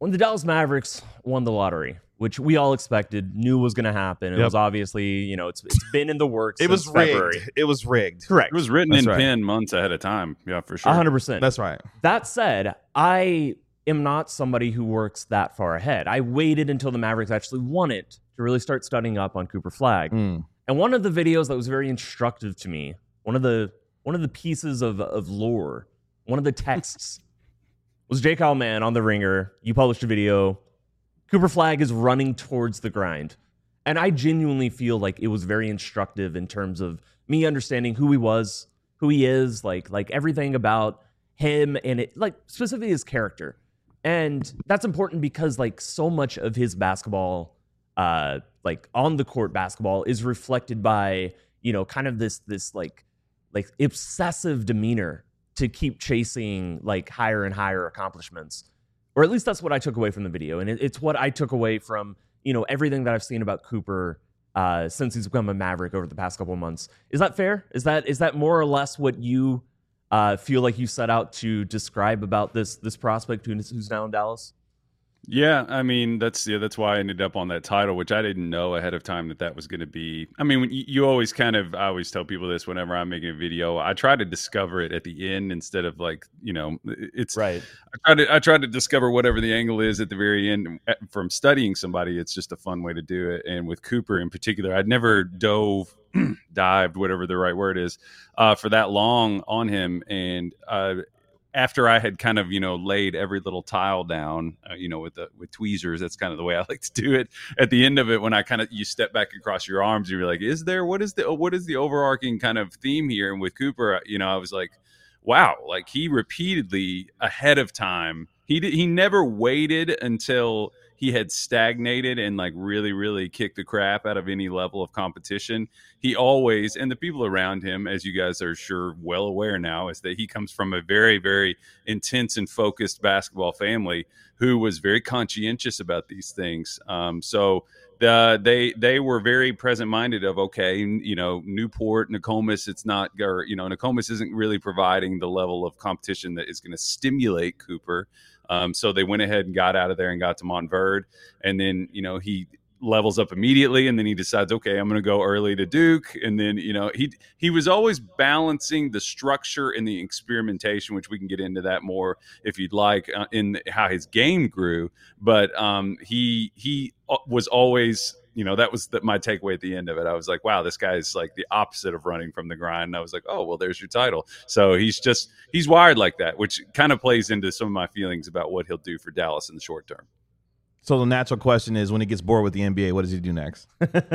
when the Dallas Mavericks won the lottery, which we all expected, knew was going to happen. It Yep. was obviously, you know, it's it's been in the works. It was since rigged. February. It was rigged. Correct. It was written That's in right. pen months ahead of time. Yeah, for sure. one hundred percent. That's right. That said, I am not somebody who works that far ahead. I waited until the Mavericks actually won it to really start studying up on Cooper Flagg. Mm. And one of the videos that was very instructive to me, one of the one of the pieces of, of lore, one of the texts was Jake Allman on The Ringer. You published a video. Cooper Flagg is running towards the grind. And I genuinely feel like it was very instructive in terms of me understanding who he was, who he is, like like everything about him and it, like specifically his character. And that's important because like so much of his basketball, uh, like on the court basketball is reflected by, you know, kind of this this like like obsessive demeanor to keep chasing like higher and higher accomplishments. Or at least that's what I took away from the video. And it, it's what I took away from, you know, everything that I've seen about Cooper uh, since he's become a Maverick over the past couple of months. Is that fair? Is that is that more or less what you uh, feel like you set out to describe about this this prospect who's, who's now in Dallas? Yeah, I mean that's yeah, that's why I ended up on that title, which I didn't know ahead of time that that was going to be. I mean, when you, you always kind of, I always tell people this whenever I'm making a video. I try to discover it at the end instead of like, you know, it's Right. I try to I try to discover whatever the angle is at the very end from studying somebody. It's just a fun way to do it. And with Cooper in particular, I'd never dove, dived, whatever the right word is, uh, for that long on him. And uh, after I had kind of, you know, laid every little tile down, uh, you know, with the with tweezers, that's kind of the way I like to do it. At the end of it, when I kind of you step back across your arms, you're like, is there what is the what is the overarching kind of theme here? And with Cooper, you know, I was like, wow, like he repeatedly ahead of time. He did, he never waited until he had stagnated and like really, really kicked the crap out of any level of competition. He always, and the people around him, as you guys are sure well aware now, is that he comes from a very, very intense and focused basketball family who was very conscientious about these things. Um, so the, they they were very present minded of, okay, you know, Newport, Nokomis, it's not, or, you know, Nokomis isn't really providing the level of competition that is going to stimulate Cooper. Um, so they went ahead and got out of there and got to Montverde. And then, you know, he levels up immediately and then he decides, okay, I'm going to go early to Duke. And then, you know, he he was always balancing the structure and the experimentation, which we can get into that more if you'd like, uh, in how his game grew. But um, he he was always, you know, that was the, my takeaway at the end of it. I was like, wow, this guy is like the opposite of running from the grind. And I was like, oh, well, there's your title. So he's just, he's wired like that, which kind of plays into some of my feelings about what he'll do for Dallas in the short term. So the natural question is, when he gets bored with the N B A, what does he do next?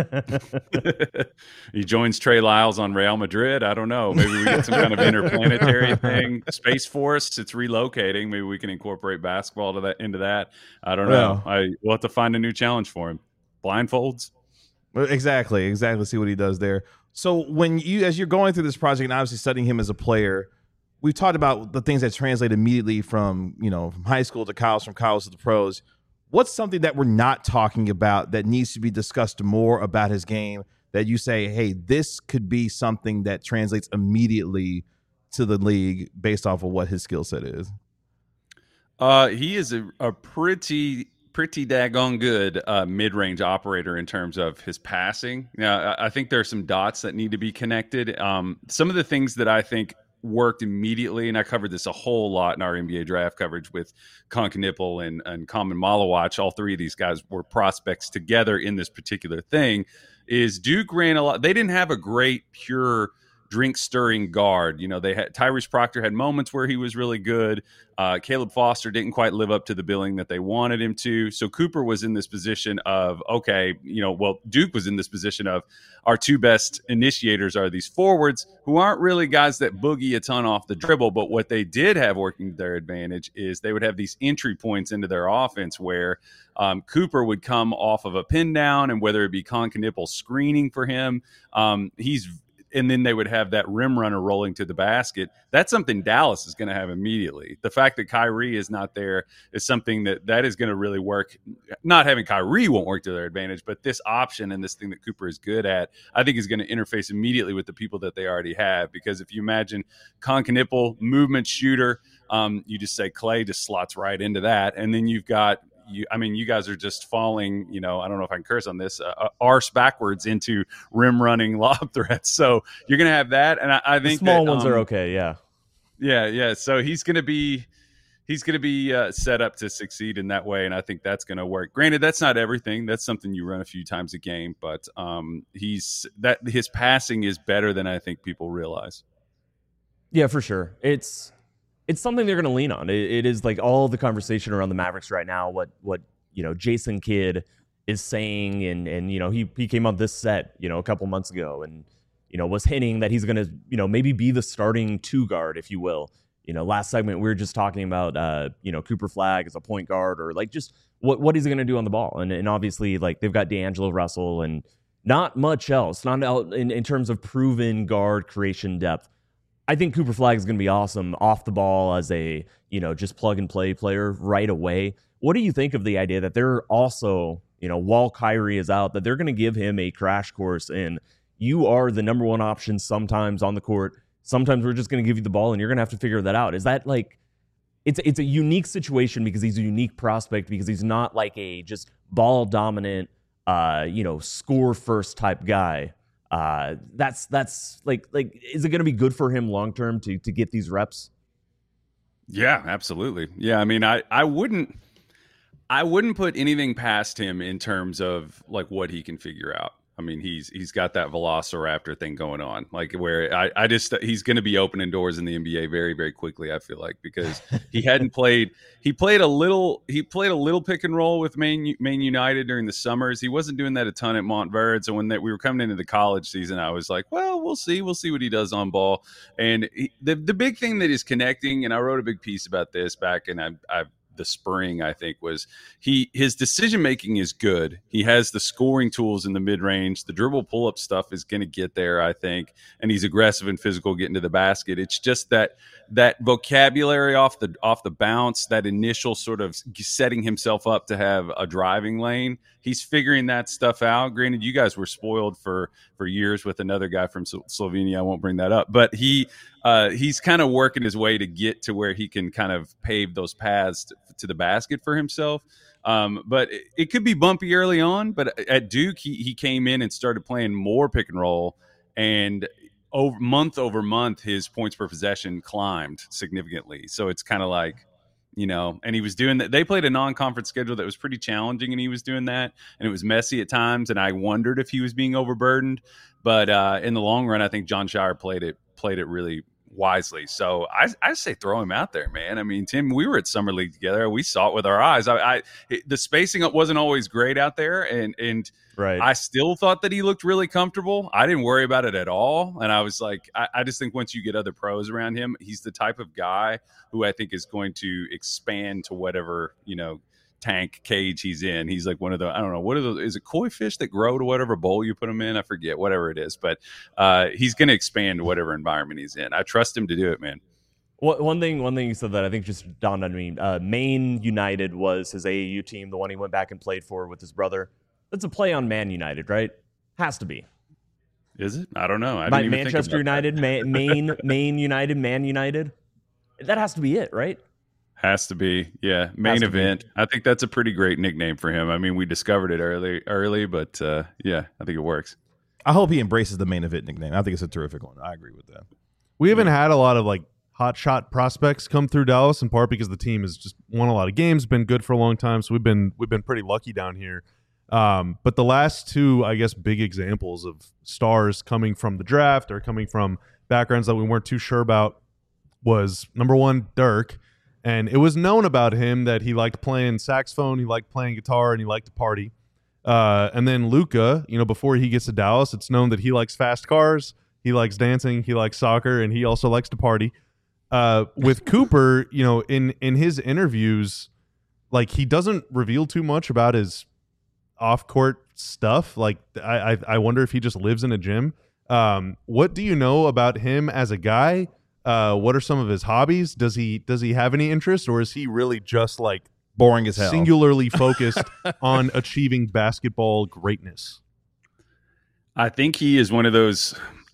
He joins Trey Lyles on Real Madrid. I don't know. Maybe we get some kind of interplanetary thing. Space Force, it's relocating. Maybe we can incorporate basketball to that into that. I don't know. Well, I we'll have to find a new challenge for him. Blindfolds. Exactly, exactly. See what he does there. So when you, as you're going through this project and obviously studying him as a player, we've talked about the things that translate immediately from, you know, from high school to college, from college to the pros. What's something that we're not talking about that needs to be discussed more about his game that you say, hey, this could be something that translates immediately to the league based off of what his skill set is? Uh, he is a, a pretty pretty daggone good uh, mid-range operator in terms of his passing. Now, I, I think there are some dots that need to be connected. Um, some of the things that I think worked immediately, and I covered this a whole lot in our N B A draft coverage with Conkanipple and, and Common Malawach. All three of these guys were prospects together in this particular thing, is Duke ran a lot. They didn't have a great pure drink stirring guard. You know, they had Tyrese Proctor had moments where he was really good. Uh, Caleb Foster didn't quite live up to the billing that they wanted him to. So Cooper was in this position of, okay, you know, well, Duke was in this position of our two best initiators are these forwards who aren't really guys that boogie a ton off the dribble. But what they did have working to their advantage is they would have these entry points into their offense where um, Cooper would come off of a pin down, and whether it be Conkanipple screening for him, um, he's and then they would have that rim runner rolling to the basket. That's something Dallas is going to have immediately. The fact that Kyrie is not there is something that that is going to really work. Not having Kyrie won't work to their advantage, but this option and this thing that Cooper is good at, I think is going to interface immediately with the people that they already have. Because if you imagine Conkanipple, movement shooter, um, you just say Clay just slots right into that. And then you've got, you, I mean, you guys are just falling, you know, I don't know if I can curse on this, uh, arse backwards into rim running lob threats. So you're going to have that. And I, I think the small that, ones um, are okay. Yeah. Yeah. Yeah. So he's going to be, he's going to be uh, set up to succeed in that way. And I think that's going to work. Granted, that's not everything. That's something you run a few times a game, but um, he's that his passing is better than I think people realize. Yeah, for sure. It's, it's something they're going to lean on. It, it is like all the conversation around the Mavericks right now. What, what, you know, Jason Kidd is saying, and, and, you know, he, he came on this set, you know, a couple months ago and, you know, was hinting that he's going to, you know, maybe be the starting two guard, if you will. You know, last segment, we were just talking about, uh, you know, Cooper Flagg as a point guard, or like just what, what he's going to do on the ball. And, and obviously, like, they've got D'Angelo Russell and not much else, not out in, in terms of proven guard creation depth. I think Cooper Flagg is going to be awesome off the ball as a, you know, just plug and play player right away. What do you think of the idea that they're also, you know, while Kyrie is out, that they're going to give him a crash course in you are the number one option sometimes on the court. Sometimes we're just going to give you the ball and you're going to have to figure that out. Is that like, it's it's a unique situation because he's a unique prospect, because he's not like a just ball dominant, uh, you know, score first type guy. Uh, that's that's like like is it going to be good for him long term to to get these reps? Yeah, absolutely. Yeah, I mean, I I wouldn't I wouldn't put anything past him in terms of like what he can figure out. I mean, he's he's got that Velociraptor thing going on, like where I, I just he's going to be opening doors in the N B A very, very quickly. I feel like, because he hadn't played, he played a little, he played a little pick and roll with Maine Maine United during the summers. He wasn't doing that a ton at Montverde. So when that we were coming into the college season, I was like, well, we'll see, we'll see what he does on ball. And he, the the big thing that is connecting, and I wrote a big piece about this back, and I I. the spring, I think, was he his decision making is good. He has the scoring tools in the mid range. The dribble pull up stuff is going to get there, I think, and he's aggressive and physical getting to the basket. It's just that that vocabulary off the off the bounce, that initial sort of setting himself up to have a driving lane. He's figuring that stuff out. Granted, you guys were spoiled for for years with another guy from Slovenia. I won't bring that up, but he uh, he's kind of working his way to get to where he can kind of pave those paths to, to the basket for himself. Um, but it, it could be bumpy early on. But at Duke, he he came in and started playing more pick and roll, and over month over month, his points per possession climbed significantly. So it's kind of like, you know, and he was doing that. They played a non-conference schedule that was pretty challenging, and he was doing that, and it was messy at times. And I wondered if he was being overburdened, but uh, in the long run, I think John Shire played it played it really wisely. So I, I say throw him out there, man. I mean, Tim, we were at Summer League together. We saw it with our eyes. I, I it, the spacing wasn't always great out there, and and right. I still thought that he looked really comfortable. I didn't worry about it at all, and I was like, I, I just think once you get other pros around him, he's the type of guy who I think is going to expand to whatever, you know, tank cage he's in. He's like one of the, I don't know, what are those, is it koi fish that grow to whatever bowl you put him in? I forget, whatever it is, but uh, he's going to expand to whatever environment he's in. I trust him to do it, man. One thing, one thing you said that I think just dawned on me. Uh, Maine United was his A A U team, the one he went back and played for with his brother. That's a play on Man United, right? Has to be. Is it? I don't know. I My, didn't even Manchester think about United, Ma- Maine, Maine United, Man United. That has to be it, right? Has to be, yeah. Main event. Be. I think that's a pretty great nickname for him. I mean, we discovered it early, early, but uh, yeah, I think it works. I hope he embraces the main event nickname. I think it's a terrific one. I agree with that. We haven't had a lot of like hot shot prospects come through Dallas, in part because the team has just won a lot of games, been good for a long time. So we've been we've been pretty lucky down here. Um, but the last two, I guess, big examples of stars coming from the draft or coming from backgrounds that we weren't too sure about was number one, Dirk. And it was known about him that he liked playing saxophone, he liked playing guitar, and he liked to party. Uh, and then Luka, you know, before he gets to Dallas, it's known that he likes fast cars, he likes dancing, he likes soccer, and he also likes to party. Uh, with Cooper, you know, in in his interviews, like he doesn't reveal too much about his off-court stuff. Like I, I, I wonder if he just lives in a gym. Um, what do you know about him as a guy? Uh, what are some of his hobbies? Does he does he have any interest, or is he really just like boring as hell, singularly focused on achieving basketball greatness? I think he is one of those.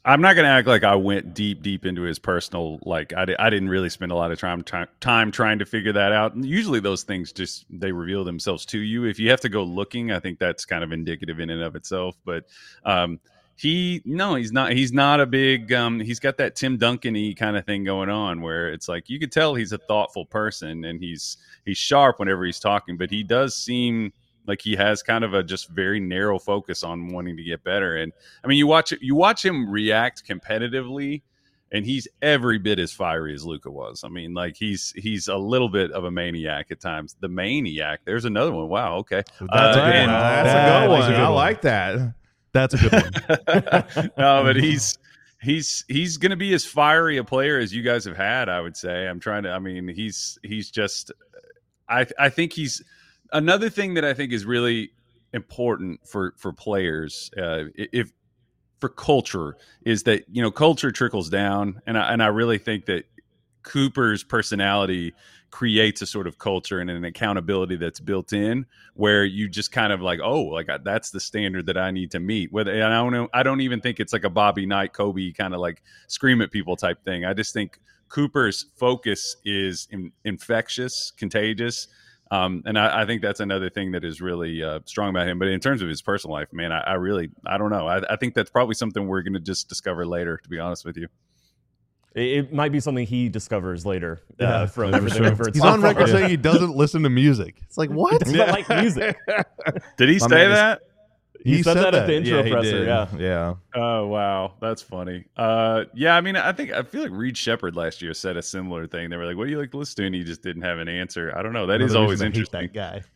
I'm not going to act like I went deep, deep into his personal. Like I, di- I didn't really spend a lot of time, time time trying to figure that out. And usually, those things just they reveal themselves to you. If you have to go looking, I think that's kind of indicative in and of itself. But um, he, no, he's not. He's not a big. Um, he's got that Tim Duncan-y kind of thing going on, where it's like you could tell he's a thoughtful person and he's he's sharp whenever he's talking. But he does seem like he has kind of a just very narrow focus on wanting to get better. And I mean, you watch you watch him react competitively, and he's every bit as fiery as Luka was. I mean, like he's he's a little bit of a maniac at times. The maniac. There's another one. Wow. Okay. That's Uh, a good and- one. That's That a good is one. a good I one. like that. That's a good one. no, but he's he's he's going to be as fiery a player as you guys have had. I would say. I'm trying to. I mean, he's he's just. I I think he's another thing that I think is really important for for players. Uh, if for culture is that you know culture trickles down, and I, and I really think that Cooper's personality creates a sort of culture and an accountability that's built in where you just kind of like, oh, like that's the standard that I need to meet. Whether and I don't know, I don't even think it's like a Bobby Knight, Kobe kind of like scream at people type thing. I just think Cooper's focus is in, infectious, contagious. Um, and I, I think that's another thing that is really uh, strong about him. But in terms of his personal life, man, I, I really, I don't know. I, I think that's probably something we're going to just discover later, to be honest with you. It, it might be something he discovers later uh, Yeah, from for everything sure. over at He's on Spotify. record saying he doesn't listen to music. It's like, what? He doesn't like music. Did he My say man is- that? He, He said, said that, at the that. intro he presser. did. Yeah. Yeah. Oh wow, that's funny. Uh, yeah, I mean, I think I feel like Reed Shepard last year said a similar thing. They were like, "What do you like to listen to?" And he just didn't have an answer. I don't know. That is Another always reason I hate interesting.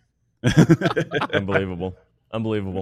that guy. Unbelievable. Unbelievable.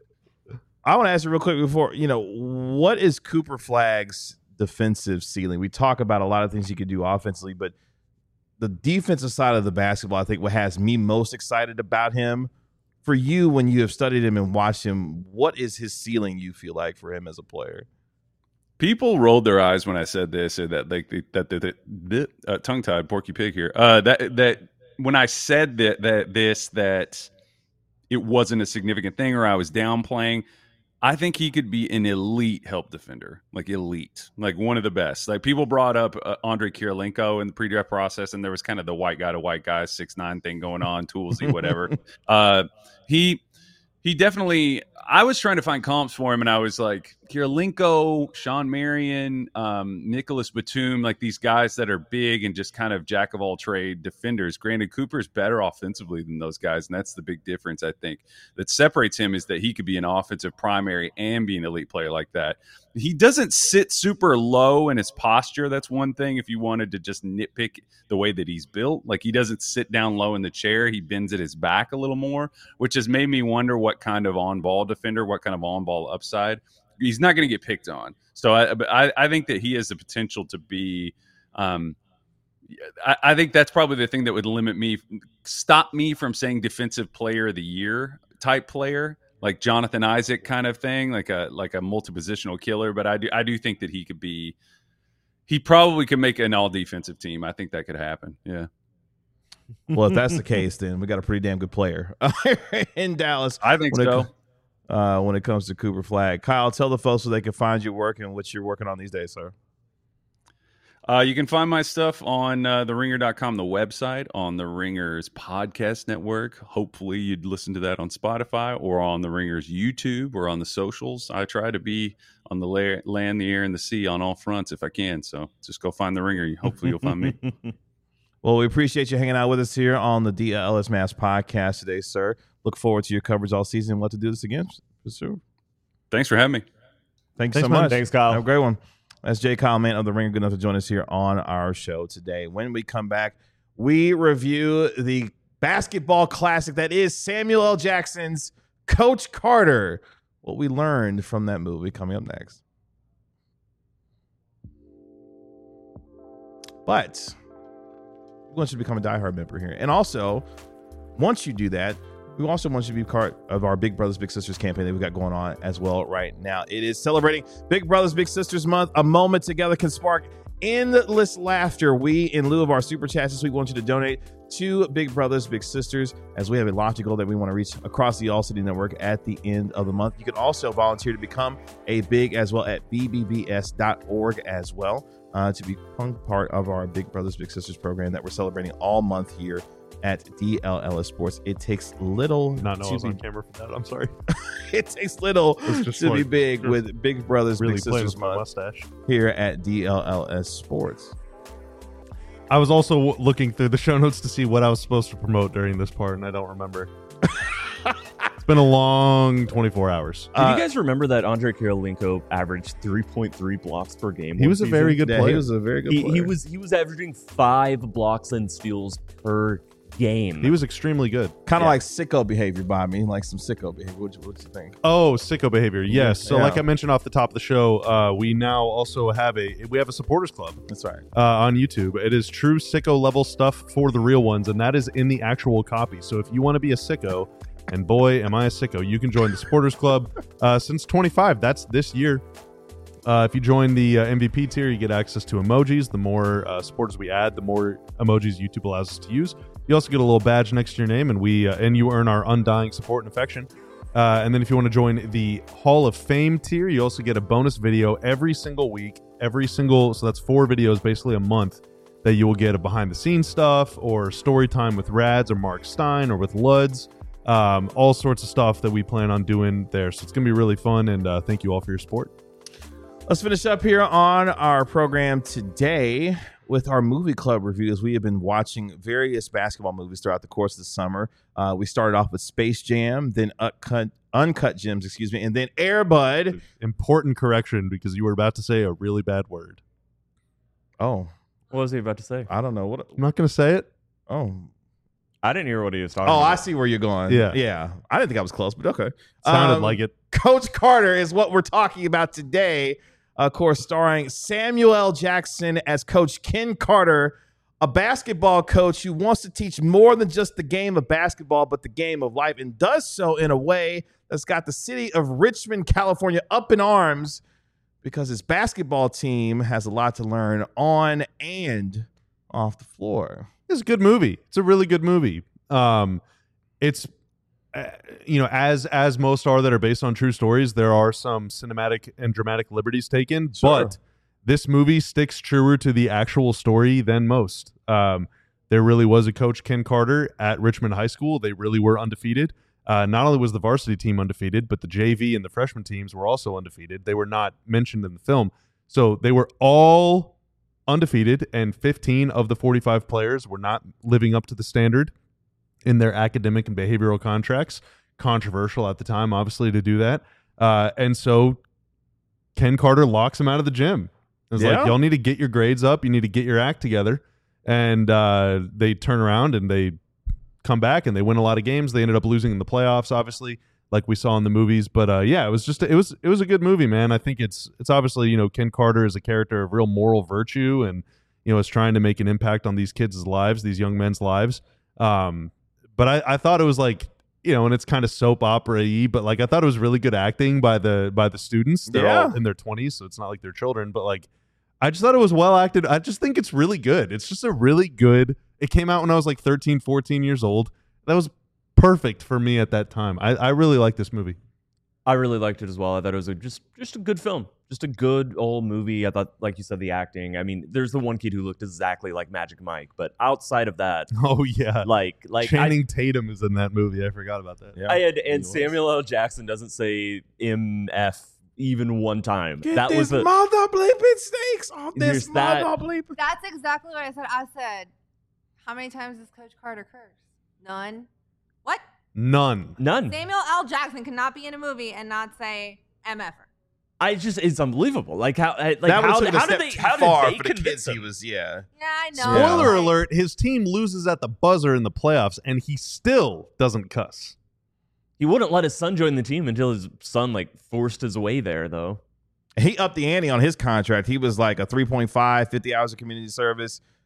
I want to ask you real quick before, you know, what is Cooper Flagg's defensive ceiling? We talk about a lot of things he could do offensively, but the defensive side of the basketball, I think what has me most excited about him. For you, when you have studied him and watched him, what is his ceiling you feel like for him as a player? People rolled their eyes when I said this, or that like the, that the, the, the uh, tongue tied Porky Pig here. Uh, that that when I said that that this that it wasn't a significant thing, or I was downplaying. I think he could be an elite help defender, like elite, like one of the best. Like people brought up uh, Andre Kirilenko in the pre-draft process, and there was kind of the white guy to white guy six nine thing going on, toolsy, whatever. uh, he he definitely. I was trying to find comps for him, and I was like Kirilenko, Sean Marion, um, Nicholas Batum, like these guys that are big and just kind of jack of all trade defenders. Granted, Cooper's better offensively than those guys, and that's the big difference I think that separates him is that he could be an offensive primary and be an elite player like that. He doesn't sit super low in his posture. That's one thing if you wanted to just nitpick the way that he's built. Like he doesn't sit down low in the chair. He bends at his back a little more, which has made me wonder what kind of on-ball defender, what kind of on-ball upside. He's not going to get picked on. So I, I, I think that he has the potential to be um, I, I think that's probably the thing that would limit me, stop me from saying defensive player of the year type player. Like Jonathan Isaac kind of thing, like a like a multi-positional killer. But I do I do think that he could be, he probably could make an all-defensive team. I think that could happen. Yeah. Well, if that's the case, then we got a pretty damn good player in Dallas. I think when so. It, uh, when it comes to Cooper Flagg, Kyle, tell the folks so they can find your work and what you're working on these days, sir. Uh, you can find my stuff on uh, the ringer dot com, the website, on the Ringers podcast network. Hopefully you'd listen to that on Spotify or on the Ringers YouTube or on the socials. I try to be on the la- land, the air, and the sea on all fronts if I can. So just go find the Ringer. Hopefully you'll find me. Well, we appreciate you hanging out with us here on the D L S Mass podcast today, sir. Look forward to your coverage all season. We'll have to do this again for sure. Thanks for having me. Thank you Thanks, so man. much. Thanks, Kyle. Have a great one. That's Jay Kyle, man of the Ringer, good enough to join us here on our show today. When we come back, we review the basketball classic that is Samuel L. Jackson's Coach Carter. What we learned from that movie coming up next. But we want you to become a diehard member here. And also, once you do that, we also want you to be part of our Big Brothers Big Sisters campaign that we've got going on as well right now. It is celebrating Big Brothers Big Sisters Month. A moment together can spark endless laughter. We, in lieu of our super chats this week, want you to donate to Big Brothers Big Sisters, as we have a lofty goal that we want to reach across the All City Network at the end of the month. You can also volunteer to become a Big as well at b b b s dot org as well, uh, to become part of our Big Brothers Big Sisters program that we're celebrating all month here at D L L S Sports. It takes little Not know I to was be on camera for that. I'm sorry. it takes little It's just to be like- big you're with Big Brothers Really Big playing Sisters with my month mustache. here at D L L S Sports. I was also w- looking through the show notes to see what I was supposed to promote during this part, and I don't remember. It's been a long twenty-four hours. Did Uh, you guys remember that Andre Kirilenko averaged three point three blocks per game? He one was a season? very good Yeah, player. he was a very good He, player. he was he was averaging five blocks and steals per game. He was extremely good. kind of yeah. like sicko behavior by me, like some sicko behavior. What you, what you think? Oh, sicko behavior. Yes. So, Yeah. like I mentioned off the top of the show, uh, we now also have a we have a supporters club That's right. uh, on YouTube. It is true sicko level stuff for the real ones, and that is in the actual copy. So, if you want to be a sicko, and boy, am I a sicko, you can join the supporters club uh, since twenty-five. That's this year. Uh, if you join the uh, M V P tier, you get access to emojis. The more uh, supporters we add, the more emojis YouTube allows us to use. You also get a little badge next to your name, and we uh, and you earn our undying support and affection. Uh, and then if you want to join the Hall of Fame tier, you also get a bonus video every single week, every single so that's four videos basically a month that you will get a behind the scenes stuff or story time with Rads or Mark Stein or with Luds. Um, all sorts of stuff that we plan on doing there. So it's gonna be really fun, and uh, thank you all for your support. Let's finish up here on our program today with our movie club reviews. We have been watching various basketball movies throughout the course of the summer. Uh, we started off with Space Jam, then Uncut, Uncut Gems, excuse me, and then Air Bud. Important correction because you were about to say a really bad word. Oh, What was he about to say? I don't know what. I'm not gonna say it. Oh, I didn't hear what he was talking oh, about. I see where you're going. Yeah. yeah. I didn't think I was close, but okay. Sounded Um, like it. Coach Carter is what we're talking about today. Of course, starring Samuel L. Jackson as Coach Ken Carter, a basketball coach who wants to teach more than just the game of basketball, but the game of life, and does so in a way that's got the city of Richmond, California up in arms because his basketball team has a lot to learn on and off the floor. It's a good movie. It's a really good movie. Um, it's uh, you know, as as most are that are based on true stories, there are some cinematic and dramatic liberties taken, Sure. but this movie sticks truer to the actual story than most. Um, there really was a coach, Ken Carter, at Richmond High School. They really were undefeated. Uh, not only was the varsity team undefeated, but the J V and the freshman teams were also undefeated. They were not mentioned in the film. So they were all undefeated, and fifteen of the forty-five players were not living up to the standard in their academic and behavioral contracts. Controversial at the time, obviously, to do that. Uh, and so Ken Carter locks him out of the gym. It's Yeah. like, y'all need to get your grades up. You need to get your act together. And uh, they turn around and they come back and they win a lot of games. They ended up losing in the playoffs, obviously, like we saw in the movies. But uh, yeah, it was just it was it was a good movie, man. I think it's it's obviously, you know, Ken Carter is a character of real moral virtue and, you know, is trying to make an impact on these kids' lives, these young men's lives. Um, but I, I thought it was like, you know, and it's kind of soap opera-y, but like I thought it was really good acting by the by the students. They're all Yeah. in their twenties, so it's not like they're children, but like I just thought it was well acted. I just think it's really good. It's just a really good. It came out when I was like thirteen, fourteen years old. That was perfect for me at that time. I, I really like this movie. I really liked it as well. I thought it was a, just just a good film, just a good old movie. I thought, like you said, the acting. I mean, there's the one kid who looked exactly like Magic Mike, but outside of that, Oh yeah, like like Channing Tatum is in that movie. I forgot about that. Yeah. I, I had, and He was. Samuel L. Jackson doesn't say M F even one time. Get that this was a mother bleeping snakes off this Here's that. mother bleeping. That's exactly what I said. I said, how many times does Coach Carter curse? None. What? None. none. Samuel L. Jackson cannot be in a movie and not say M F R. I just it's unbelievable. Like how like that how, would have how taken did a they step how too far did they for the convince kids he him? was, yeah. Yeah, I know. Spoiler Like, alert: his team loses at the buzzer in the playoffs, and he still doesn't cuss. He wouldn't let his son join the team until his son like forced his way there, though. He upped the ante on his contract. He was like a three point five, fifty hours of community service.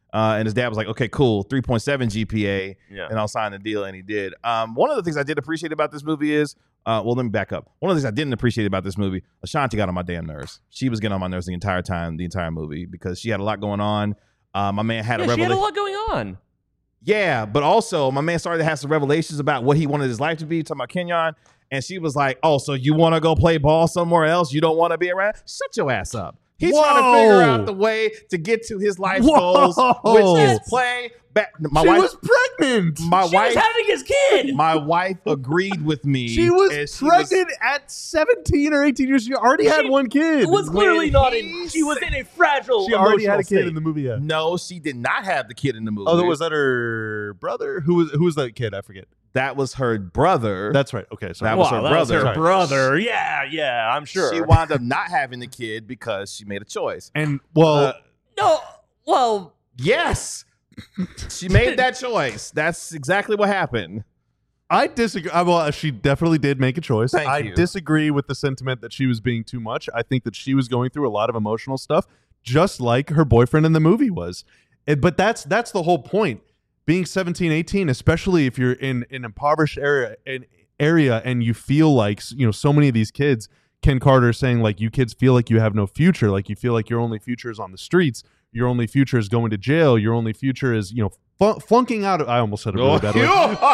Uh, and his dad was like, okay, cool, three point seven G P A, Yeah. and I'll sign the deal. And he did. Um, one of the things I did appreciate about this movie is, uh, well, let me back up. One of the things I didn't appreciate about this movie, Ashanti got on my damn nerves. She was getting on my nerves the entire time, the entire movie, because she had a lot going on. Uh, my man had Yeah, a she had revelation. a lot going on. Yeah, but also my man started to have some revelations about what he wanted his life to be. Talking about Kenyon, and she was like, "Oh, so you want to go play ball somewhere else? You don't want to be around? Shut your ass up." He's trying to figure Whoa. out the way to get to his life Whoa. goals, which is play. Back, my she wife, was pregnant. my She wife, was having his kid. my wife agreed with me. She was and she pregnant at seventeen or eighteen years. She already had She one kid. It was clearly When not he in. She was in a fragile. She already had a emotional kid state. in the movie. Yeah. No, she did not have the kid in the movie. Oh, was that her brother? Who was who was that kid? I forget. that was her brother. That's right. Okay, sorry. That was Wow, her that brother. was her Sorry. brother. Yeah, yeah, I'm sure. She wound up not having the kid because she made a choice. And well, Uh, no, well, Yes. She made that choice. That's exactly what happened. I disagree. I, well, she definitely did make a choice. Thank I you. disagree with the sentiment that she was being too much. I think that she was going through a lot of emotional stuff, just like her boyfriend in the movie was. It- but that's that's the whole point. Being seventeen, eighteen, especially if you're in an impoverished area, an area, and you feel like you know so many of these kids. Ken Carter saying like you kids feel like you have no future, like you feel like your only future is on the streets. Your only future is going to jail. Your only future is, you know, fl- flunking out of, I almost said it really bad way.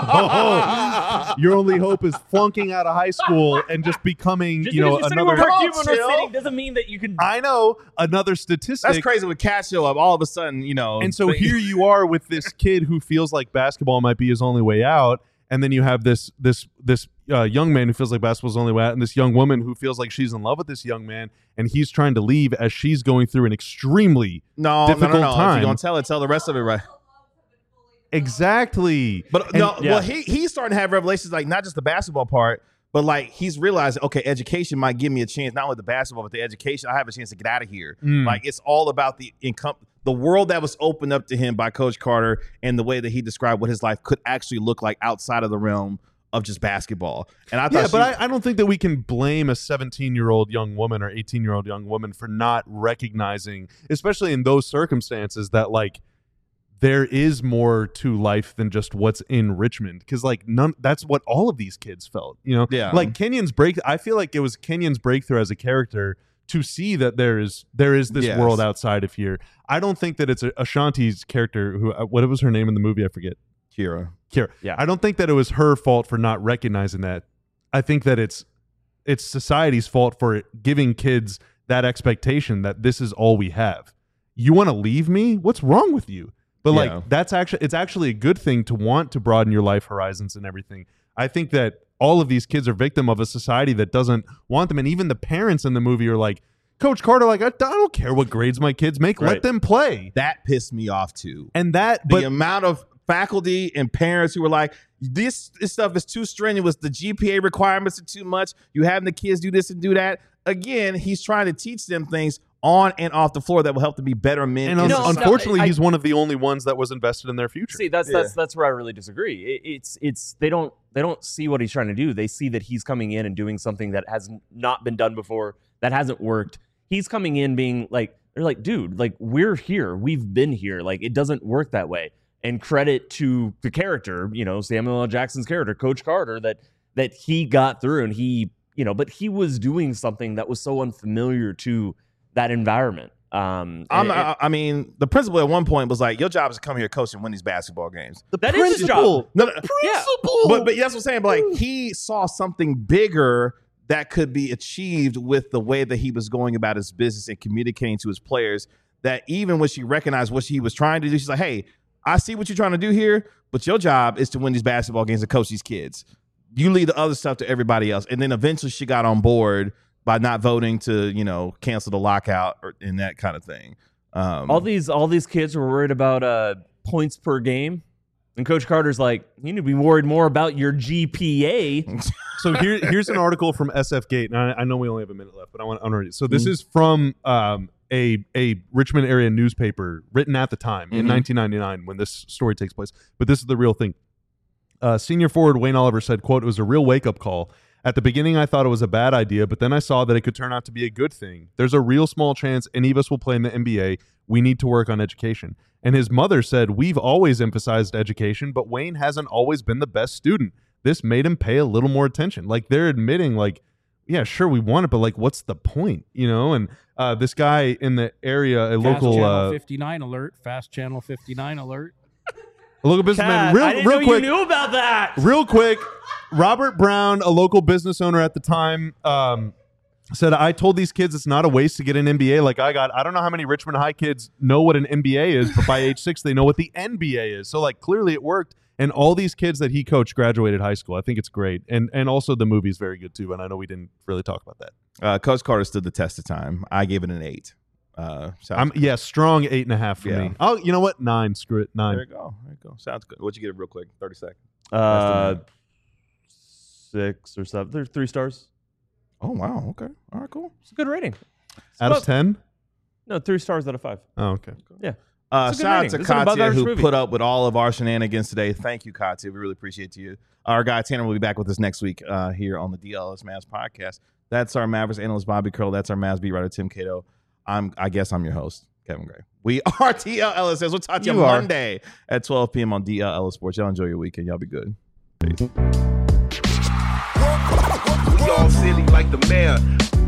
Oh, your only hope is flunking out of high school and just becoming, just you know, because you're sitting where another. Mark Come on, Cuban are chill. sitting doesn't mean that you can. I know another statistic. That's crazy with Cat show up. All of a sudden, you know. And so they- here you are with this kid who feels like basketball might be his only way out, and then you have this this this uh, young man who feels like basketball's only way out, and this young woman who feels like she's in love with this young man, and he's trying to leave as she's going through an extremely no, difficult no, no, no. If time. you're gonna tell it, tell the rest of it right. exactly. But And- no, yeah. well, he he's starting to have revelations, like not just the basketball part, but like he's realizing, okay, education might give me a chance, not only the basketball, but the education. I have a chance to get out of here. Mm. Like it's all about the income, the world that was opened up to him by Coach Carter, and the way that he described what his life could actually look like outside of the realm of just basketball. And I thought, Yeah, she, but I, I don't think that we can blame a seventeen-year-old young woman or eighteen-year-old young woman for not recognizing, especially in those circumstances, that like there is more to life than just what's in Richmond. Because like none, that's what all of these kids felt. You know, Yeah. like Kenyon's break. I feel like it was Kenyon's breakthrough as a character to see that there is there is this Yes. world outside of here. I don't think that it's a, Ashanti's character who uh, what was her name in the movie? I forget. Kira. Kira. Yeah. I don't think that it was her fault for not recognizing that. I think that it's it's society's fault for giving kids that expectation that this is all we have. You want to leave me? What's wrong with you? But like Yeah. that's actually it's actually a good thing to want to broaden your life horizons and everything. I think that all of these kids are victim of a society that doesn't want them, and even the parents in the movie are like, Coach Carter, like I, I don't care what grades my kids make, let Right. them play. That pissed me off too. And that, The but amount of faculty and parents who were like, this, this stuff is too strenuous. The G P A requirements are too much. You having the kids do this and do that. Again, he's trying to teach them things on and off the floor that will help them be better men. and in un- No, no, society. unfortunately, I- he's one of the only ones that was invested in their future. See, that's Yeah. that's that's where I really disagree. It, it's it's they don't they don't see what he's trying to do. They see that he's coming in and doing something that has not been done before, that hasn't worked. He's coming in being like, they're like, dude, like we're here, we've been here, like it doesn't work that way. And credit to the character, you know, Samuel L. Jackson's character, Coach Carter, that that he got through and he, you know, but he was doing something that was so unfamiliar to that environment. Um, I'm, and- I, I mean, the principal at one point was like, your job is to come here, coach, and win these basketball games. The That is his principal- job. No, no, yeah, but, but that's what I'm saying. But like, he saw something bigger that could be achieved with the way that he was going about his business and communicating to his players, that even when she recognized what he was trying to do, she's like, hey, I see what you're trying to do here, but your job is to win these basketball games and coach these kids. You leave the other stuff to everybody else. And then eventually she got on board by not voting to, you know, cancel the lockout or and that kind of thing. Um, all these all these kids were worried about uh, points per game, and Coach Carter's like, you need to be worried more about your G P A. So here, here's an article from S F Gate, and I, I know we only have a minute left, but I want to read it. So this Mhm. is from um, a a Richmond area newspaper written at the time in Mhm. nineteen ninety-nine when this story takes place. But this is the real thing. Uh, senior forward Wayne Oliver said, quote, "It was a real wake-up call. At the beginning, I thought it was a bad idea, but then I saw that it could turn out to be a good thing. There's a real small chance any of us will play in the N B A. We need to work on education. And his mother said, "We've always emphasized education, but Wayne hasn't always been the best student. This made him pay a little more attention." Like, they're admitting, like, yeah, sure, we want it, but like, what's the point, you know? And uh, this guy in the area, a Fast local, Channel uh, fifty-nine alert. Fast Channel fifty-nine alert. a local businessman, Cat, real, I didn't real know quick, you knew about that. real quick. Robert Brown, a local business owner at the time, um, said, "I told these kids it's not a waste to get an M B A like I got. I don't know how many Richmond High kids know what an M B A is, but by age six, they know what the N B A is. So, like, clearly it worked. And all these kids that he coached graduated high school. I think it's great. And and also the movie's very good, too. And I know we didn't really talk about that. Uh, Coach Carter stood the test of time. I gave it an eight. Uh, sounds I'm good. Yeah, strong eight and a half for Yeah. me. Oh, you know what? Nine. Screw it. Nine. There you go. There you go. Sounds good. What'd you get it real quick? thirty seconds. Uh, six or seven. There's three stars. Oh, wow. Okay. All right, cool. It's a good rating. Out of ten? No, three stars out of five. Oh, okay. Yeah. Uh, It's a good shout out rating. to This is an above Katya, average who movie. put up with all of our shenanigans today. Thank you, Katya. We really appreciate you. Our guy Tanner will be back with us next week uh, here on the D L S Mavs podcast. That's our Mavericks analyst Bobby Curl. That's our Mavs beat writer Tim Cato. I'm. I guess I'm your host, Kevin Gray. We are D L L S. We'll talk to you, You are. Monday at twelve p.m. on D L L S Sports. Y'all enjoy your weekend. Y'all be good. Peace. We all silly like the mayor.